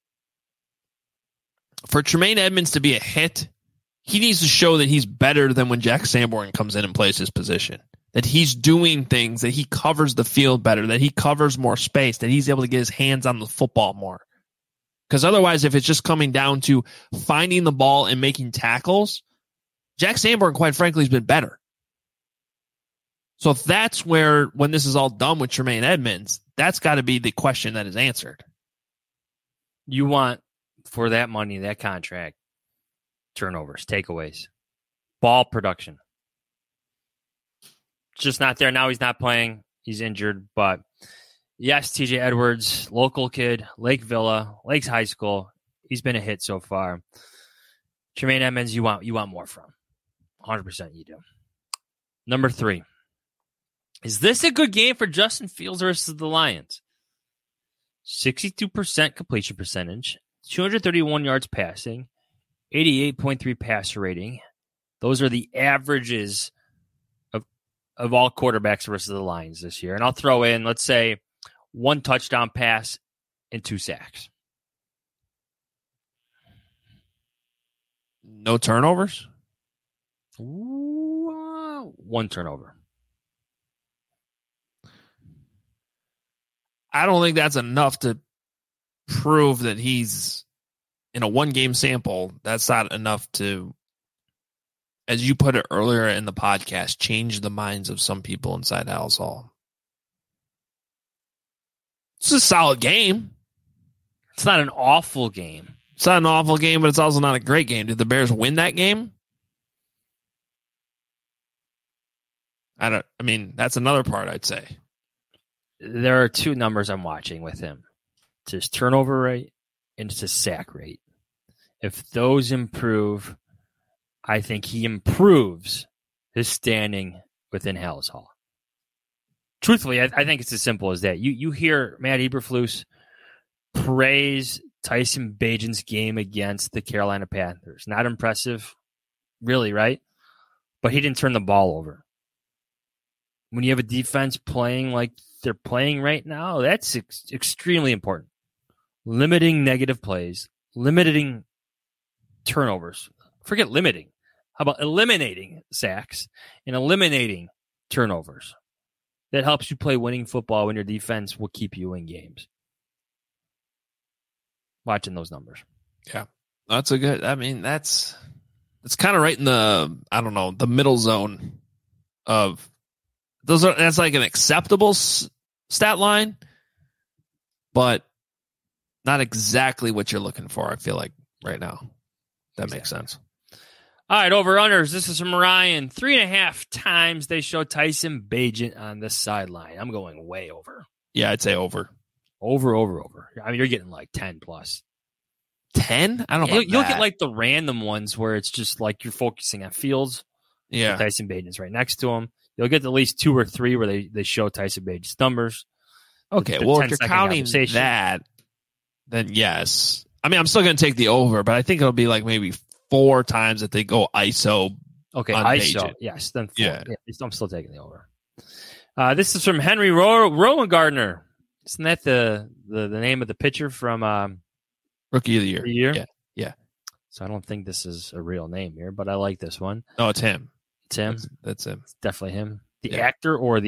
For Tremaine Edmonds to be a hit, he needs to show that he's better than when Jack Sanborn comes in and plays his position. That he's doing things, that he covers the field better, that he covers more space, that he's able to get his hands on the football more. Because otherwise, if it's just coming down to finding the ball and making tackles, Jack Sanborn, quite frankly, has been better. So that's where, when this is all done with Tremaine Edmonds, that's got to be the question that is answered. You want, for that money, that contract, turnovers, takeaways, ball production. It's just not there. Now he's not playing. He's injured. But yes, TJ Edwards, local kid, Lake Villa, Lakes High School. He's been a hit so far. Tremaine Edmonds, you want more from. 100% you do. Number 3. Is this a good game for Justin Fields versus the Lions? 62% completion percentage, 231 yards passing, 88.3 passer rating. Those are the averages of all quarterbacks versus the Lions this year. And I'll throw in, let's say, 1 touchdown pass and 2 sacks. No turnovers? Ooh, 1 turnover. I don't think that's enough to prove that he's in a 1-game sample. That's not enough to, as you put it earlier in the podcast, change the minds of some people inside Halas Hall. It's a solid game. It's not an awful game. It's not an awful game, but it's also not a great game. Did the Bears win that game? I mean, that's another part, I'd say. There are 2 numbers I'm watching with him. It's his turnover rate and it's his sack rate. If those improve, I think he improves his standing within Halas Hall. Truthfully, I think it's as simple as that. You hear Matt Eberflus praise Tyson Bagent's game against the Carolina Panthers. Not impressive, really, right? But he didn't turn the ball over. When you have a defense playing like they're playing right now, that's extremely important. Limiting negative plays, limiting turnovers. Forget limiting. How about eliminating sacks and eliminating turnovers? That helps you play winning football when your defense will keep you in games. Watching those numbers. Yeah. That's a good, I mean, it's kind of right in the, I don't know, the middle zone of that's like an acceptable stat line, but not exactly what you're looking for, I feel like, right now. That makes sense. All right, over-unders. This is from Ryan. 3.5 times they show Tyson Bagent on the sideline. I'm going way over. Yeah, I'd say over. Over. I mean, you're getting like 10 plus. 10? I don't know. You'll get like the random ones where it's just like you're focusing on Fields. Yeah. Tyson Bagent's right next to him. You'll get at least 2 or 3 where they show Tyson Bagent's numbers. Okay, well, if you're counting that, then yes. I mean, I'm still going to take the over, but I think it'll be like maybe 4 times that they go ISO. Okay, ISO. Bagent. Yes, then 4. Yeah. I'm still taking the over. This is from Henry Rowengartner. Isn't that the name of the pitcher from Rookie of the Year? Yeah. So I don't think this is a real name here, but I like this one. No, it's him. It's him. That's him. It's definitely him. The actor or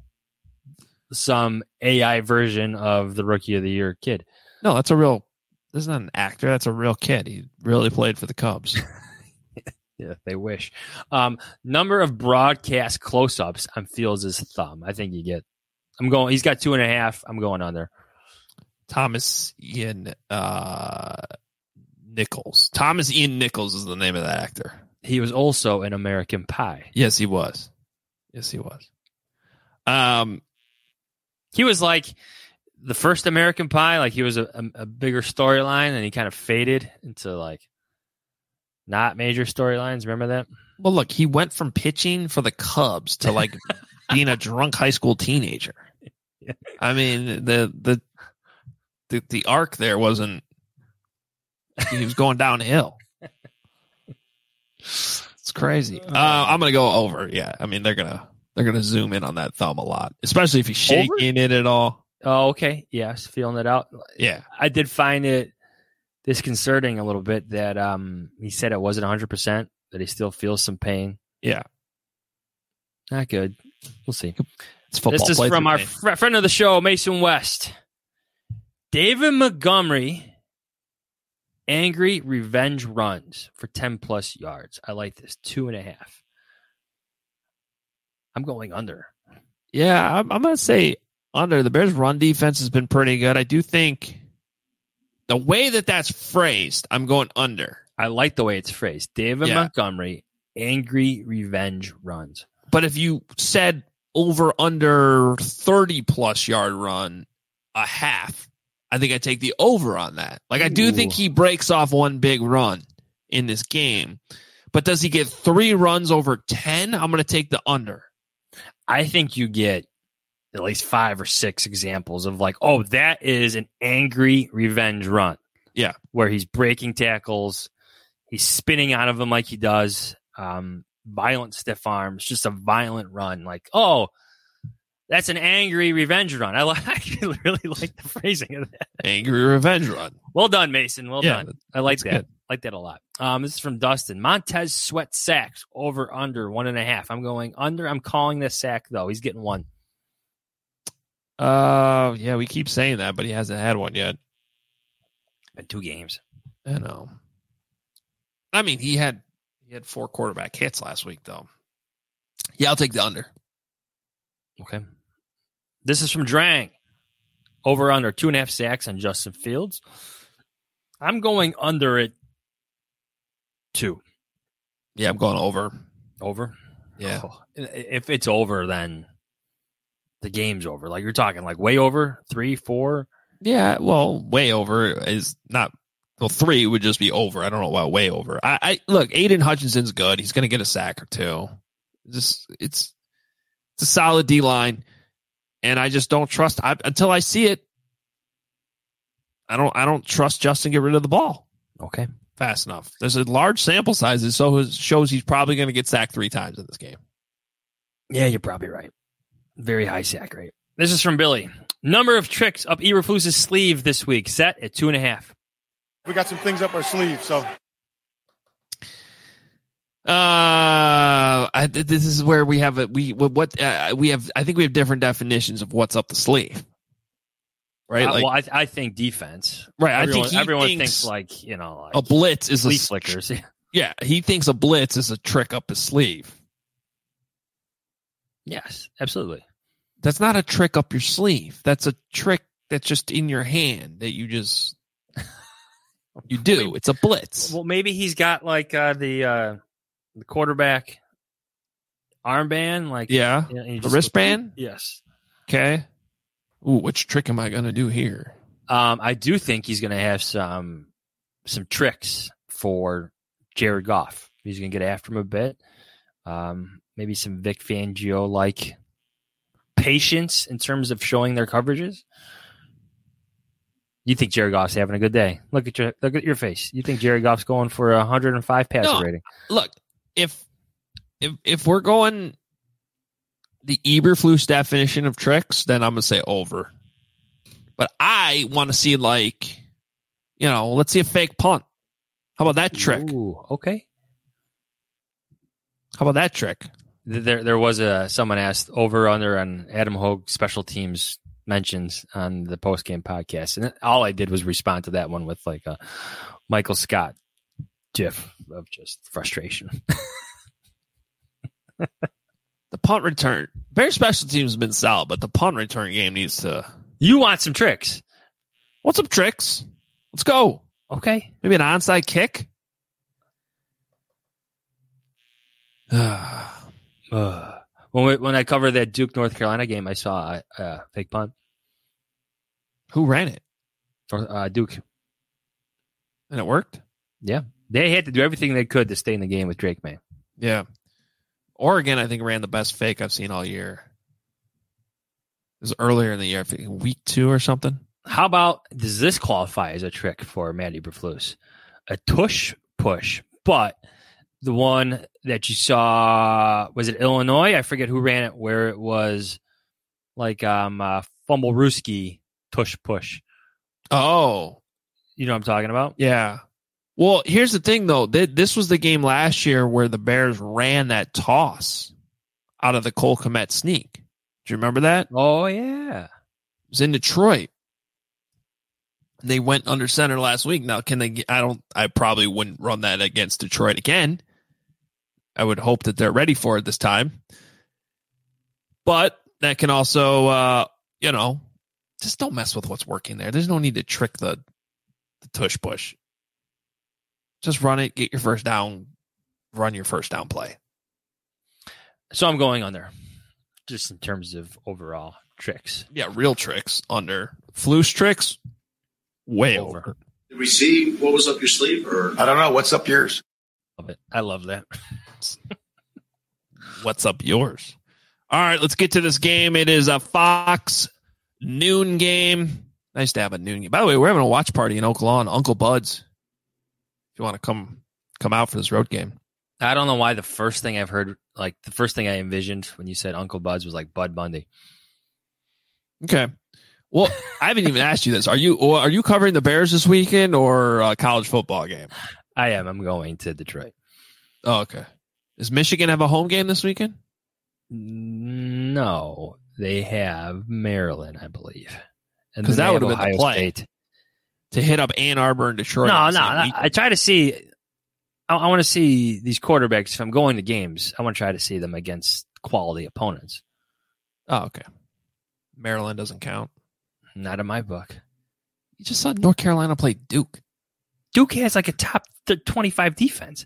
some AI version of the Rookie of the Year kid. No, that's a real. This is not an actor. That's a real kid. He really played for the Cubs. Yeah, they wish. Number of broadcast close-ups on Fields' thumb. I think you get. He's got 2.5. I'm going under. Thomas Ian Nichols. Thomas Ian Nichols is the name of that actor. He was also in American Pie. Yes, he was. He was like the first American Pie. Like he was a bigger storyline, and he kind of faded into like not major storylines. Remember that? Well, look, he went from pitching for the Cubs to like being a drunk high school teenager. I mean, the arc there wasn't. He was going downhill. It's crazy. I'm gonna go over. Yeah, I mean they're gonna zoom in on that thumb a lot, especially if he's shaking it at all. Oh, okay. Yes, feeling it out. Yeah, I did find it disconcerting a little bit that he said it wasn't 100%, that he still feels some pain. Yeah, not good. We'll see. It's football. This is from our friend of the show, Mason West. David Montgomery. Angry revenge runs for 10+ yards. I like this. 2.5. I'm going under. Yeah, I'm going to say under. The Bears' run defense has been pretty good. I do think the way that that's phrased, I'm going under. I like the way it's phrased. David Montgomery, angry revenge runs. But if you said over under 30-plus yard run, a half, I think I'd take the over on that. Like, I do think he breaks off one big run in this game. But does he get 3 runs over 10? I'm going to take the under. I think you get at least 5 or 6 examples of like, oh, that is an angry revenge run. Yeah. Where he's breaking tackles. He's spinning out of them like he does. Violent stiff arms, just a violent run. Like, oh, that's an angry revenge run. I really like the phrasing of that. Angry revenge run. Well done, Mason. Well done. I like that. Good. Like that a lot. This is from Dustin. Montez Sweat sacks over under 1.5. I'm going under. I'm calling this sack though. He's getting 1. Yeah, we keep saying that, but he hasn't had one yet. Been 2 games. I know. I mean, he had 4 quarterback hits last week though. Yeah, I'll take the under. Okay. This is from Drang. Over under 2.5 sacks on Justin Fields. I'm going under it 2. Yeah, I'm going over. Over? Yeah. Oh, if it's over, then the game's over. Like you're talking like way over, 3, 4. Yeah, well, way over is not. Well, 3 would just be over. I don't know about way over. I look, Aiden Hutchinson's good. He's going to get a sack or 2. It's a solid D line, and I just don't trust until I see it. I don't trust Justin to get rid of the ball. Okay, fast enough. There's a large sample size, so it shows he's probably going to get sacked 3 times in this game. Yeah, you're probably right. Very high sack rate. This is from Billy. Number of tricks up Eberflus's sleeve this week set at 2.5. We got some things up our sleeve, so. This is where we have I think we have different definitions of what's up the sleeve, right? I think defense, right? Everyone thinks like a blitz is sleeve flickers. Yeah, he thinks a blitz is a trick up his sleeve. Yes, absolutely. That's not a trick up your sleeve. That's a trick that's just in your hand that you just you do. It's a blitz. Well, maybe he's got like the quarterback armband, like the wristband. Yes. Okay. Ooh, which trick am I going to do here? I do think he's going to have some tricks for Jared Goff. He's going to get after him a bit. Maybe some Vic Fangio like patience in terms of showing their coverages. You think Jared Goff's having a good day? Look at your face. You think Jared Goff's going for 105 passer rating? Look, if we're going the Eberflus definition of tricks, then I'm gonna say over. But I want to see let's see a fake punt. How about that trick? Ooh, okay. How about that trick? There was someone asked over under on Adam Hogue special teams mentions on the post-game podcast, and all I did was respond to that one with like a Michael Scott gif of just frustration. The punt return, Bears special teams have been solid, but the punt return game needs to. You want some tricks? Want some tricks? Let's go. Okay, maybe an onside kick. When I covered that Duke North Carolina game, I saw a fake punt. Who ran it? Duke. And it worked? Yeah. They had to do everything they could to stay in the game with Drake May. Yeah. Oregon, I think, ran the best fake I've seen all year. It was earlier in the year, I think week 2 or something. How about, does this qualify as a trick for Matt Eberflus? A tush push, but the one that you saw, was it Illinois? I forget who ran it, where it was like Fumblerooski tush push. Oh. You know what I'm talking about? Yeah. Well, here's the thing, though. This was the game last year where the Bears ran that toss out of the Cole Kmet sneak. Do you remember that? Oh, yeah. It was in Detroit. They went under center last week. Now, I probably wouldn't run that against Detroit again. I would hope that they're ready for it this time. But that can also, just don't mess with what's working there. There's no need to trick the tush push. Just run it, get your first down, run your first down play. So I'm going under, just in terms of overall tricks. Yeah, real tricks under. Floosh tricks, way over. Did we see what was up your sleeve? Or I don't know. What's up yours? Love it. I love that. What's up yours? All right, let's get to this game. It is a Fox noon game. Nice to have a noon game. By the way, we're having a watch party in Oak Lawn. Uncle Bud's. If you want to come out for this road game. I don't know why the first thing I've heard, like the first thing I envisioned when you said Uncle Bud's was like Bud Bundy. Okay. Well, I haven't even asked you this. Are you covering the Bears this weekend or a college football game? I am. I'm going to Detroit. Oh, okay. Does Michigan have a home game this weekend? No, they have Maryland, I believe. Because that would have been the play. State. To hit up Ann Arbor and Detroit. No. I try to see. I want to see these quarterbacks. If I'm going to games, I want to try to see them against quality opponents. Oh, okay. Maryland doesn't count. Not in my book. You just saw North Carolina play Duke. Duke has like a top 25 defense.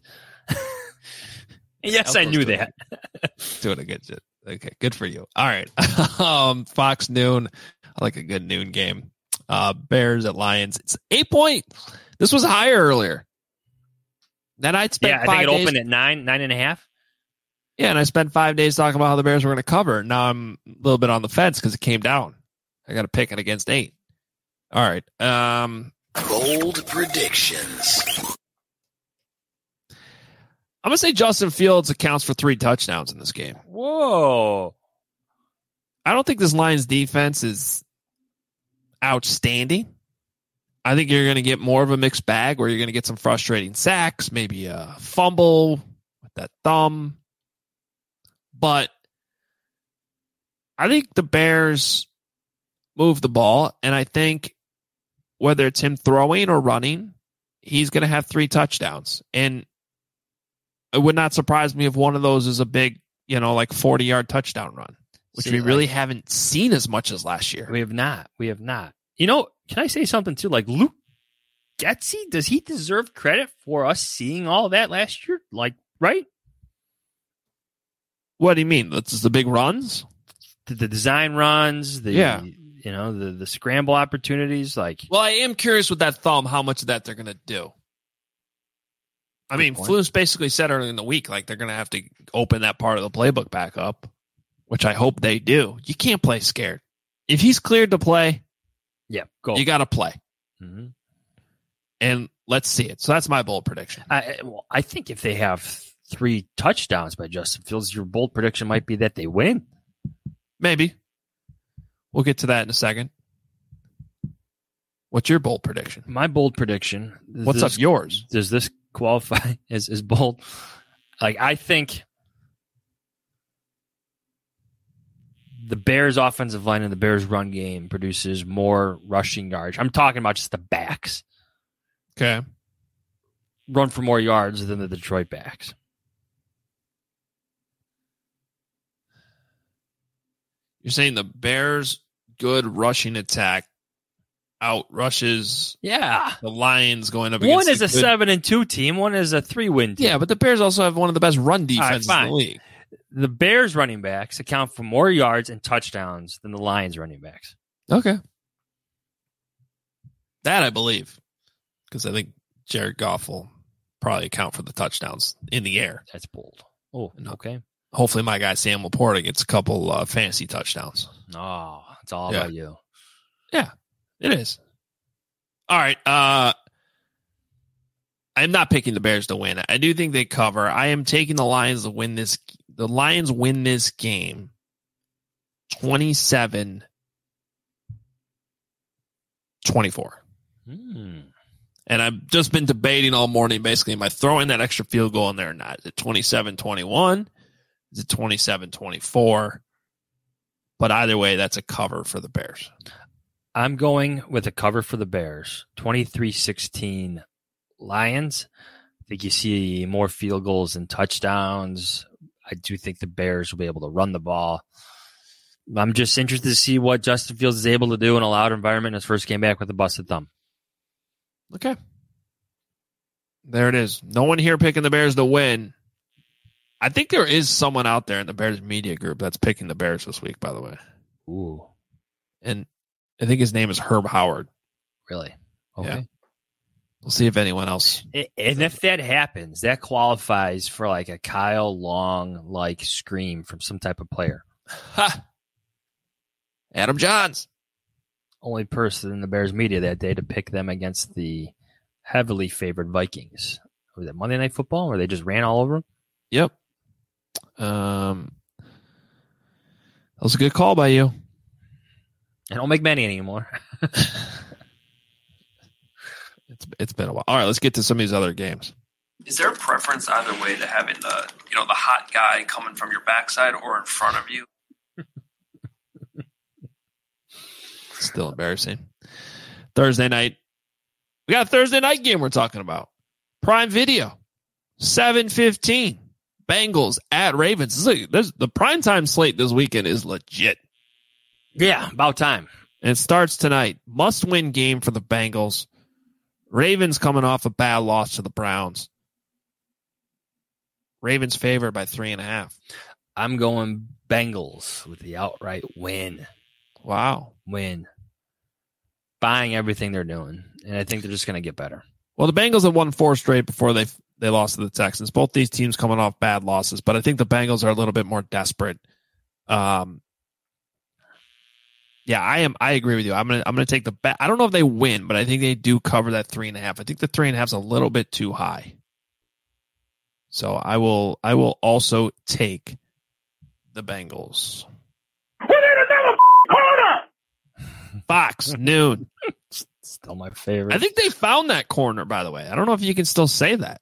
Yes, I knew that. Doing a good job. Okay, good for you. All right. Fox noon. I like a good noon game. Bears at Lions. It's 8-point. This was higher earlier. Then I'd spent 5 days. I think it opened at 9.5. Yeah, and I spent 5 days talking about how the Bears were going to cover. Now I'm a little bit on the fence because it came down. I got to pick it against 8. All right. Bold predictions. I'm going to say Justin Fields accounts for 3 touchdowns in this game. Whoa. I don't think this Lions defense is outstanding. I think you're going to get more of a mixed bag where you're going to get some frustrating sacks, maybe a fumble with that thumb. But I think the Bears move the ball, and I think whether it's him throwing or running, he's going to have 3 touchdowns. And it would not surprise me if one of those is a big, like 40-yard touchdown run, which we really haven't seen as much as last year. We have not. Can I say something too? Like Luke Getsy, does he deserve credit for us seeing all that last year? Like, right? What do you mean? That's the big runs? The design runs, the scramble opportunities. Like, well, I am curious with that thumb, how much of that they're going to do. I mean, Flus basically said earlier in the week, like they're going to have to open that part of the playbook back up, which I hope they do. You can't play scared. If he's cleared to play, go. You got to play. Mm-hmm. And let's see it. So that's my bold prediction. I think if they have 3 touchdowns by Justin Fields, your bold prediction might be that they win. Maybe. We'll get to that in a second. What's your bold prediction? My bold prediction. What's up yours? Does this qualify as bold? Like, I think the Bears' offensive line and the Bears' run game produces more rushing yards. I'm talking about just the backs. Okay. Run for more yards than the Detroit backs. You're saying the Bears' good rushing attack outrushes the Lions going up against one is a 7-2 team, one is a 3-win team. Yeah, but the Bears also have one of the best run defenses in the league. The Bears running backs account for more yards and touchdowns than the Lions running backs. Okay. That I believe. Because I think Jared Goff will probably account for the touchdowns in the air. That's bold. Oh, okay. Hopefully my guy Sam Laporta gets a couple fantasy touchdowns. Oh, it's all about you. Yeah, it is. All right. I'm not picking the Bears to win. I do think they cover. I am taking the Lions to win this. The Lions win this game 27-24. And I've just been debating all morning, basically, am I throwing that extra field goal in there or not? Is it 27-21? Is it 27-24? But either way, that's a cover for the Bears. I'm going with a cover for the Bears. 23-16 Lions. I think you see more field goals and touchdowns. I do think the Bears will be able to run the ball. I'm just interested to see what Justin Fields is able to do in a loud environment in his first game back with a busted thumb. Okay. There it is. No one here picking the Bears to win. I think there is someone out there in the Bears media group that's picking the Bears this week, by the way. Ooh. And I think his name is Herb Howard. Really? Okay. Yeah. We'll see if anyone else. And if that happens, that qualifies for like a Kyle Long like scream from some type of player. Ha! Adam Johns. Only person in the Bears media that day to pick them against the heavily favored Vikings. Was it Monday Night Football where they just ran all over them? Yep. That was a good call by you. I don't make many anymore. It's been a while. All right, let's get to some of these other games. Is there a preference either way to having the hot guy coming from your backside or in front of you? Still embarrassing. Thursday night. We got a Thursday night game we're talking about. Prime Video. 7:15. Bengals at Ravens. The primetime slate this weekend is legit. Yeah, about time. And it starts tonight. Must-win game for the Bengals. Ravens coming off a bad loss to the Browns. Ravens favored by 3.5. I'm going Bengals with the outright win. Wow. Win. Buying everything they're doing. And I think they're just going to get better. Well, the Bengals have won 4 straight before they lost to the Texans. Both these teams coming off bad losses, but I think the Bengals are a little bit more desperate. Yeah, I agree with you. I'm gonna take the bet. I don't know if they win, but I think they do cover that 3.5. I think the 3.5 is a little bit too high. So I will also take the Bengals. We need another corner. Fox noon. Still my favorite. I think they found that corner, by the way. I don't know if you can still say that.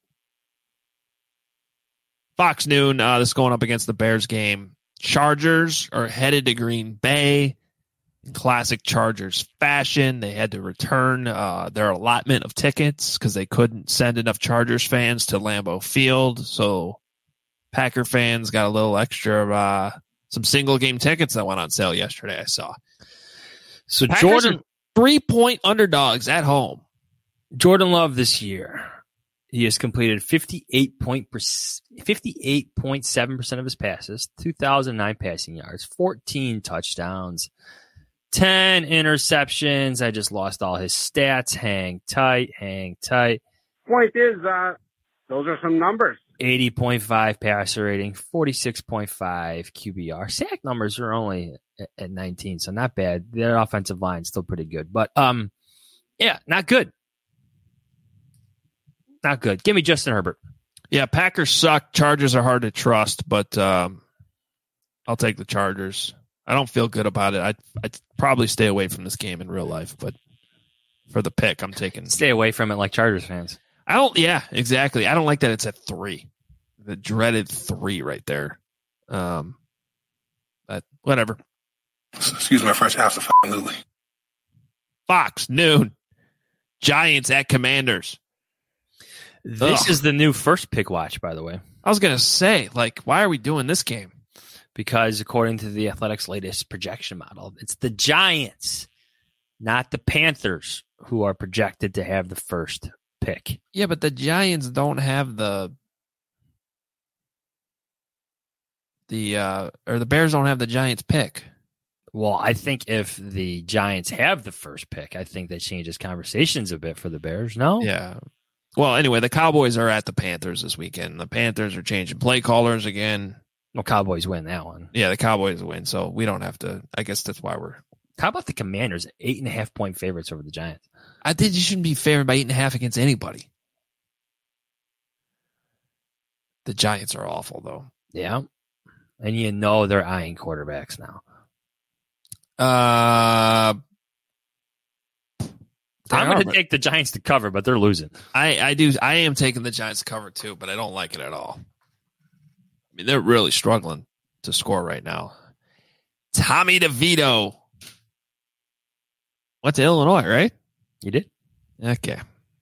Fox noon. This is going up against the Bears game. Chargers are headed to Green Bay. In classic Chargers fashion, they had to return their allotment of tickets because they couldn't send enough Chargers fans to Lambeau Field. So Packer fans got a little extra, some single game tickets that went on sale yesterday, I saw. So Packers Jordan, are 3-point underdogs at home. Jordan Love this year, he has completed 58.7% of his passes, 2,009 passing yards, 14 touchdowns, 10 interceptions. I just lost all his stats. Hang tight. Point is, those are some numbers. 80.5 passer rating, 46.5 QBR. Sack numbers are only at 19, so not bad. Their offensive line is still pretty good. But, yeah, not good. Not good. Give me Justin Herbert. Yeah, Packers suck. Chargers are hard to trust, but I'll take the Chargers. I don't feel good about it. I'd probably stay away from this game in real life, but for the pick, I'm taking. Stay away from it like Chargers fans. Yeah, exactly. I don't like that it's at 3. The dreaded 3 right there. But whatever. Excuse my French, absolutely. Fox, noon. Giants at Commanders. This is the new first pick watch, by the way. I was going to say, why are we doing this game? Because according to the Athletics' latest projection model, it's the Giants, not the Panthers, who are projected to have the first pick. Yeah, but the Giants don't have the Bears don't have the Giants pick. Well, I think if the Giants have the first pick, I think that changes conversations a bit for the Bears. No? Yeah. Well, anyway, the Cowboys are at the Panthers this weekend. The Panthers are changing play callers again. Well, Cowboys win that one. Yeah, the Cowboys win, so we don't have to. I guess that's why we're. How about the Commanders? 8.5-point favorites over the Giants. I think you shouldn't be favored by 8.5 against anybody. The Giants are awful, though. Yeah, and you know they're eyeing quarterbacks now. I'm going to take the Giants to cover, but they're losing. I am taking the Giants to cover too, but I don't like it at all. I mean, they're really struggling to score right now. Tommy DeVito went to Illinois, right? You did? Okay.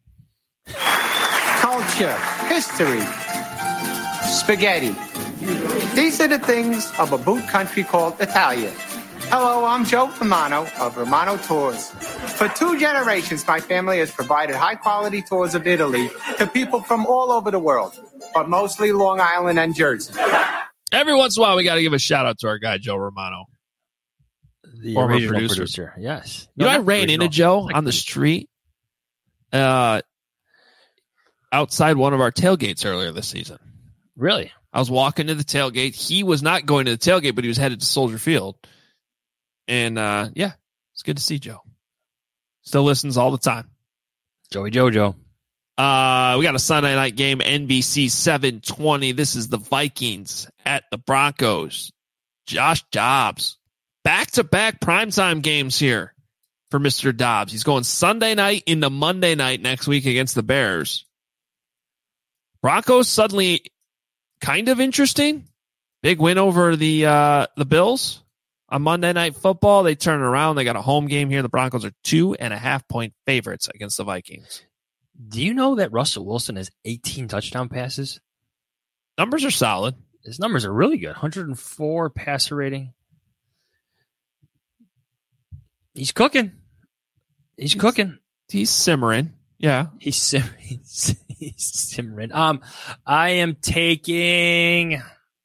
Culture, history, spaghetti. These are the things of a boot country called Italia. Hello, I'm Joe Romano of Romano Tours. For 2 generations, my family has provided high-quality tours of Italy to people from all over the world, but mostly Long Island and Jersey. Every once in a while, we got to give a shout-out to our guy, Joe Romano. The former original producer. Yes. You know, I ran into Joe on the street outside one of our tailgates earlier this season. Really? I was walking to the tailgate. He was not going to the tailgate, but he was headed to Soldier Field. And, yeah, it's good to see Joe. Still listens all the time. Joey Jojo. We got a Sunday night game, NBC 720. This is the Vikings at the Broncos. Josh Dobbs. Back-to-back primetime games here for Mr. Dobbs. He's going Sunday night into Monday night next week against the Bears. Broncos suddenly kind of interesting. Big win over the Bills on Monday Night Football. They turn it around. They got a home game here. The Broncos are 2.5-point favorites against the Vikings. Do you know that Russell Wilson has 18 touchdown passes? Numbers are solid. His numbers are really good. 104 passer rating. He's cooking. He's cooking. He's simmering. Yeah. He's simmering. I am taking...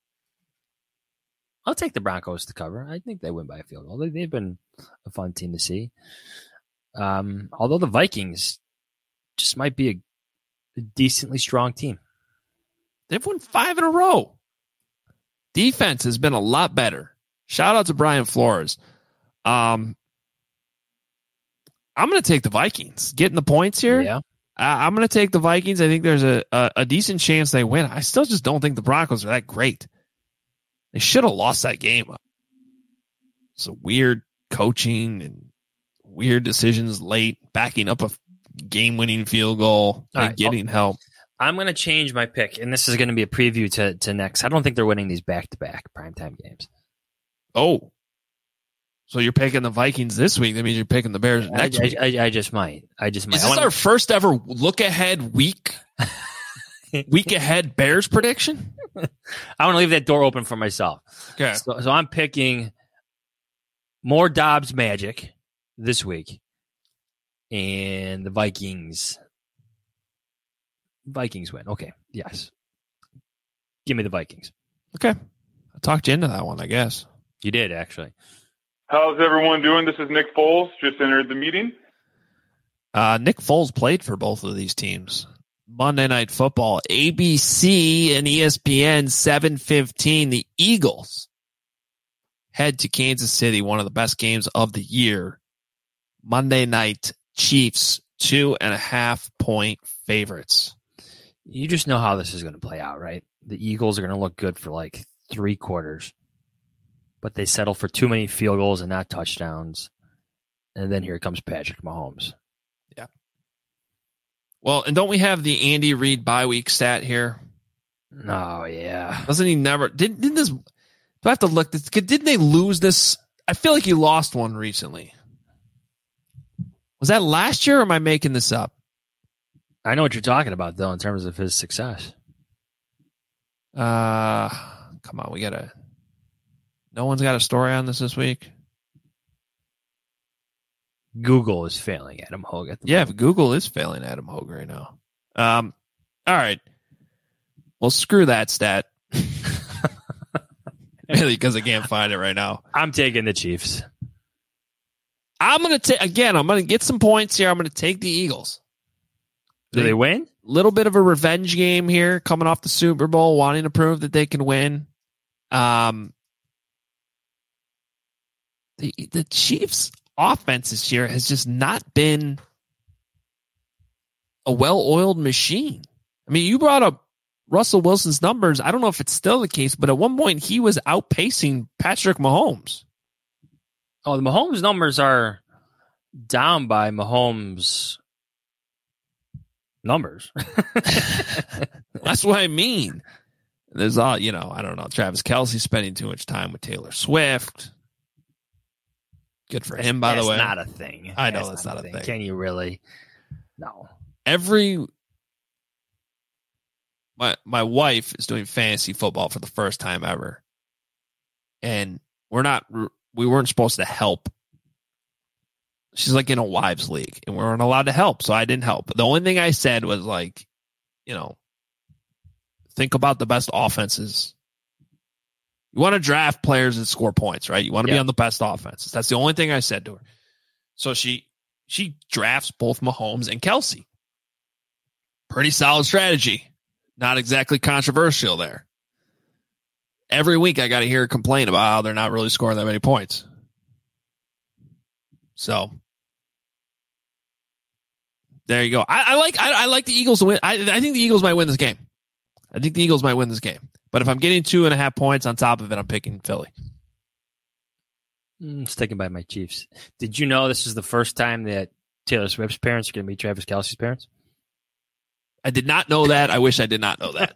I'll take the Broncos to cover. I think they win by a field goal. They've been a fun team to see. Although the Vikings just might be a decently strong team. They've won 5 in a row. Defense has been a lot better. Shout out to Brian Flores. I'm going to take the Vikings. Getting the points here. Yeah. I'm going to take the Vikings. I think there's a decent chance they win. I still just don't think the Broncos are that great. They should have lost that game. It's a weird coaching and weird decisions late, backing up a game-winning field goal and getting help. I'm going to change my pick, and this is going to be a preview to next. I don't think they're winning these back-to-back primetime games. Oh. So you're picking the Vikings this week. That means you're picking the Bears next week. I just might. Is this our first ever look-ahead week ahead Bears prediction? I want to leave that door open for myself. Okay. So I'm picking more Dobbs magic this week. And the Vikings win. Okay. Yes. Give me the Vikings. Okay. I talked you into that one, I guess. You did, actually. How's everyone doing? This is Nick Foles. Just entered the meeting. Nick Foles played for both of these teams. Monday Night Football, ABC and ESPN 7:15. The Eagles head to Kansas City, one of the best games of the year. Monday night, Chiefs 2.5-point favorites. You just know how this is going to play out, right? The Eagles are going to look good for like 3 quarters, but they settle for too many field goals and not touchdowns. And then here comes Patrick Mahomes. Yeah. Well, and don't we have the Andy Reid bye week stat here? Oh, yeah. Doesn't he never? Didn't this? Do I have to look? Didn't they lose this? I feel like he lost one recently. Was that last year, or am I making this up? I know what you're talking about, though, in terms of his success. Come on, we gotta. No one's got a story on this week. Google is failing Adam Hogue at the moment. Google is failing Adam Hogue right now. All right. Well, screw that stat. Really, because I can't find it right now. I'm taking the Chiefs. I'm going to get some points here. I'm going to take the Eagles. Do they win? Little bit of a revenge game here, coming off the Super Bowl, wanting to prove that they can win. The Chiefs' offense this year has just not been a well-oiled machine. I mean, you brought up Russell Wilson's numbers. I don't know if it's still the case, but at one point he was outpacing Patrick Mahomes. Oh, the Mahomes numbers are down by Mahomes' numbers. That's what I mean. There's I don't know, Travis Kelce spending too much time with Taylor Swift. Good for him, by the way. That's not a thing. I know that's not a thing. Can you really? No. My wife is doing fantasy football for the first time ever. And we're not we weren't supposed to help. She's like in a wives league, and we weren't allowed to help, so I didn't help. The only thing I said was like, think about the best offenses. You want to draft players that score points, right? You want to be on the best offenses. That's the only thing I said to her. So she drafts both Mahomes and Kelsey. Pretty solid strategy. Not exactly controversial there. Every week I got to hear her complain about how they're not really scoring that many points. So there you go. I like the Eagles to win. I think the Eagles might win this game. But if I'm getting 2.5 points on top of it, I'm picking Philly. Sticking by my Chiefs. Did you know this is the first time that Taylor Swift's parents are going to meet Travis Kelce's parents? I did not know that. I wish I did not know that.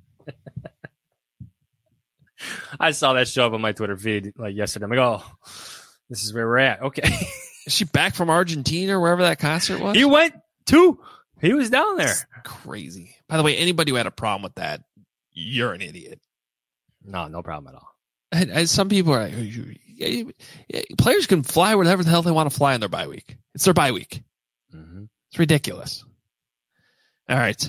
I saw that show up on my Twitter feed like yesterday. I'm like, oh, this is where we're at. Okay. Is she back from Argentina or wherever that concert was? He went too. He was down there. That's crazy. By the way, anybody who had a problem with that, you're an idiot. No problem at all. And some people are like, players can fly wherever the hell they want to fly on their bye week. It's their bye week. Mm-hmm. It's ridiculous. All right.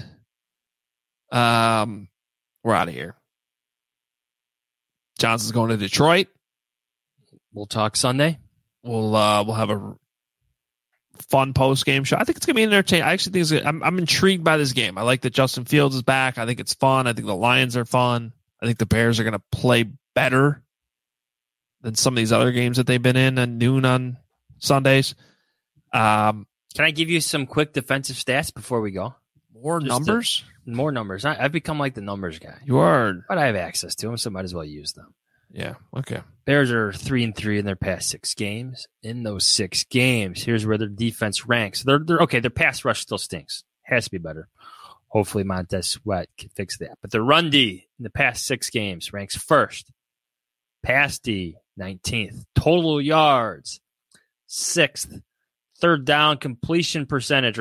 We're out of here. Johnson's going to Detroit. We'll talk Sunday. We'll have a fun post-game show. I think it's going to be entertaining. I actually think I'm intrigued by this game. I like that Justin Fields is back. I think it's fun. I think the Lions are fun. I think the Bears are going to play better than some of these other games that they've been in at noon on Sundays. Can I give you some quick defensive stats before we go? More numbers? More numbers. I've become like the numbers guy. You are. But I have access to them, so might as well use them. Yeah, okay. Bears are 3-3 in their past 6 games. In those 6 games, here's where their defense ranks. They're okay. Their pass rush still stinks. Has to be better. Hopefully Montez Sweat can fix that. But the run D in the past 6 games ranks first. Pass D, 19th. Total yards, 6th. Third down conversion percentage,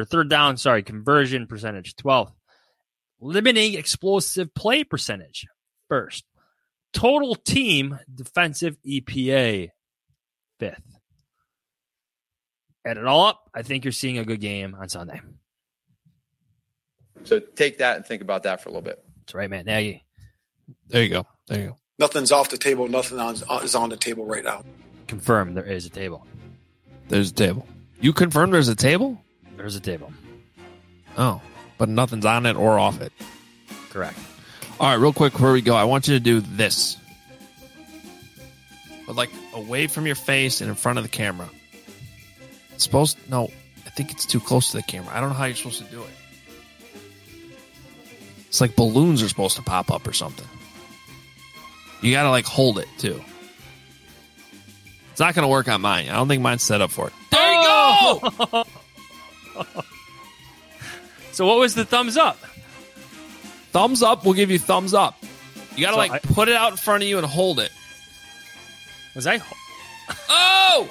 12th. Limiting explosive play percentage, 1st. Total team defensive EPA, 5th. Add it all up, I think you're seeing a good game on Sunday. So take that and think about that for a little bit. That's right, Matt Nagy. There you go. Nothing's off the table. Nothing is on the table right now. Confirm there is a table. There's a table. You confirm there's a table? There's a table. Oh, but nothing's on it or off it. Correct. All right, real quick before we go, I want you to do this. But like away from your face and in front of the camera. No, I think it's too close to the camera. I don't know how you're supposed to do it. It's like balloons are supposed to pop up or something. You got to like hold it too. It's not going to work on mine. I don't think mine's set up for it. There you go! So what was the thumbs up? Thumbs up will give you thumbs up. You got to put it out in front of you and hold it. Was I? Oh!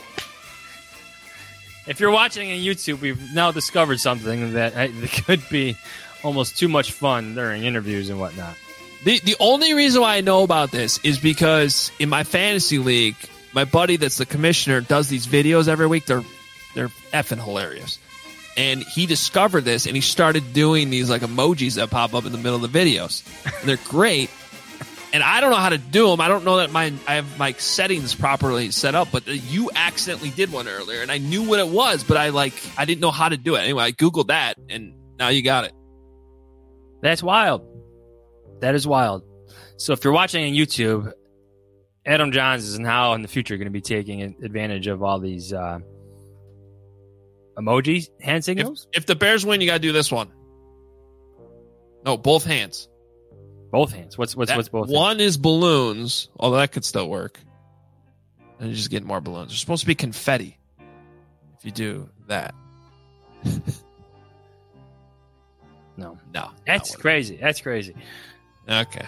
If you're watching on YouTube, we've now discovered something that could be almost too much fun during interviews and whatnot. The only reason why I know about this is because in my fantasy league, my buddy that's the commissioner does these videos every week. They're effing hilarious. And he discovered this, and he started doing these like emojis that pop up in the middle of the videos. And they're great. And I don't know how to do them. I don't know that I have my settings properly set up, but you accidentally did one earlier, and I knew what it was, but I didn't know how to do it. Anyway, I Googled that, and now you got it. That's wild. That is wild. So if you're watching on YouTube, Adam Johns is now in the future going to be taking advantage of all these emoji hand signals. If the Bears win, you got to do this one. No, both hands. Both hands. What's both? One is balloons, although that could still work. And you just get more balloons. There's supposed to be confetti if you do that. No. That's crazy. That's crazy. Okay.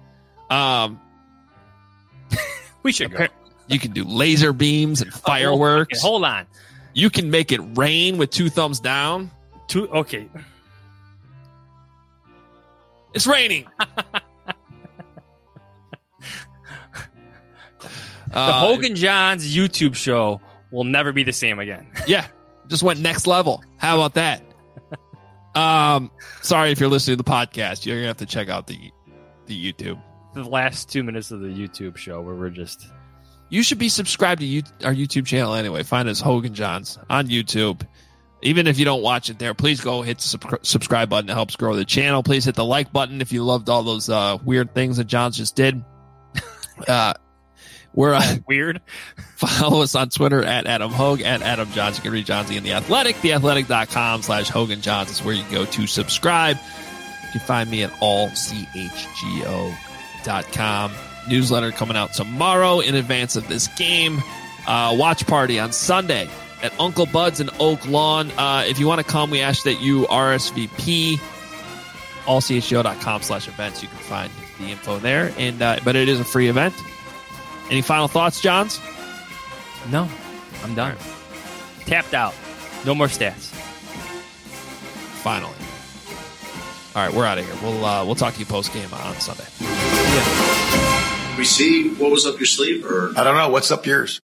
We should go. You can do laser beams and fireworks. Okay, hold on. You can make it rain with 2 thumbs down. Okay. It's raining. The Hogan Johns YouTube show will never be the same again. Yeah, just went next level. How about that? Sorry if you're listening to the podcast. You're going to have to check out the YouTube. The last 2 minutes of the YouTube show where we're just... You should be subscribed to our YouTube channel anyway. Find us Hogan Johns on YouTube. Even if you don't watch it there, please go hit the subscribe button. It helps grow the channel. Please hit the like button if you loved all those weird things that Johns just did. We're weird. Follow us on Twitter at Adam Hogue, at Adam Johns. You can read Johnsy in The Athletic. TheAthletic.com/Hogan Johns is where you go to subscribe. You can find me at allchgo.com. Newsletter coming out tomorrow in advance of this game. Watch party on Sunday at Uncle Bud's in Oak Lawn. If you want to come, we ask that you RSVP. allchgo.com/events. You can find the info there. But it is a free event. Any final thoughts, Johns? No, I'm done. Tapped out. No more stats. Finally. All right, we're out of here. We'll talk to you post game on Sunday. We see what was up your sleeve, or I don't know. What's up yours?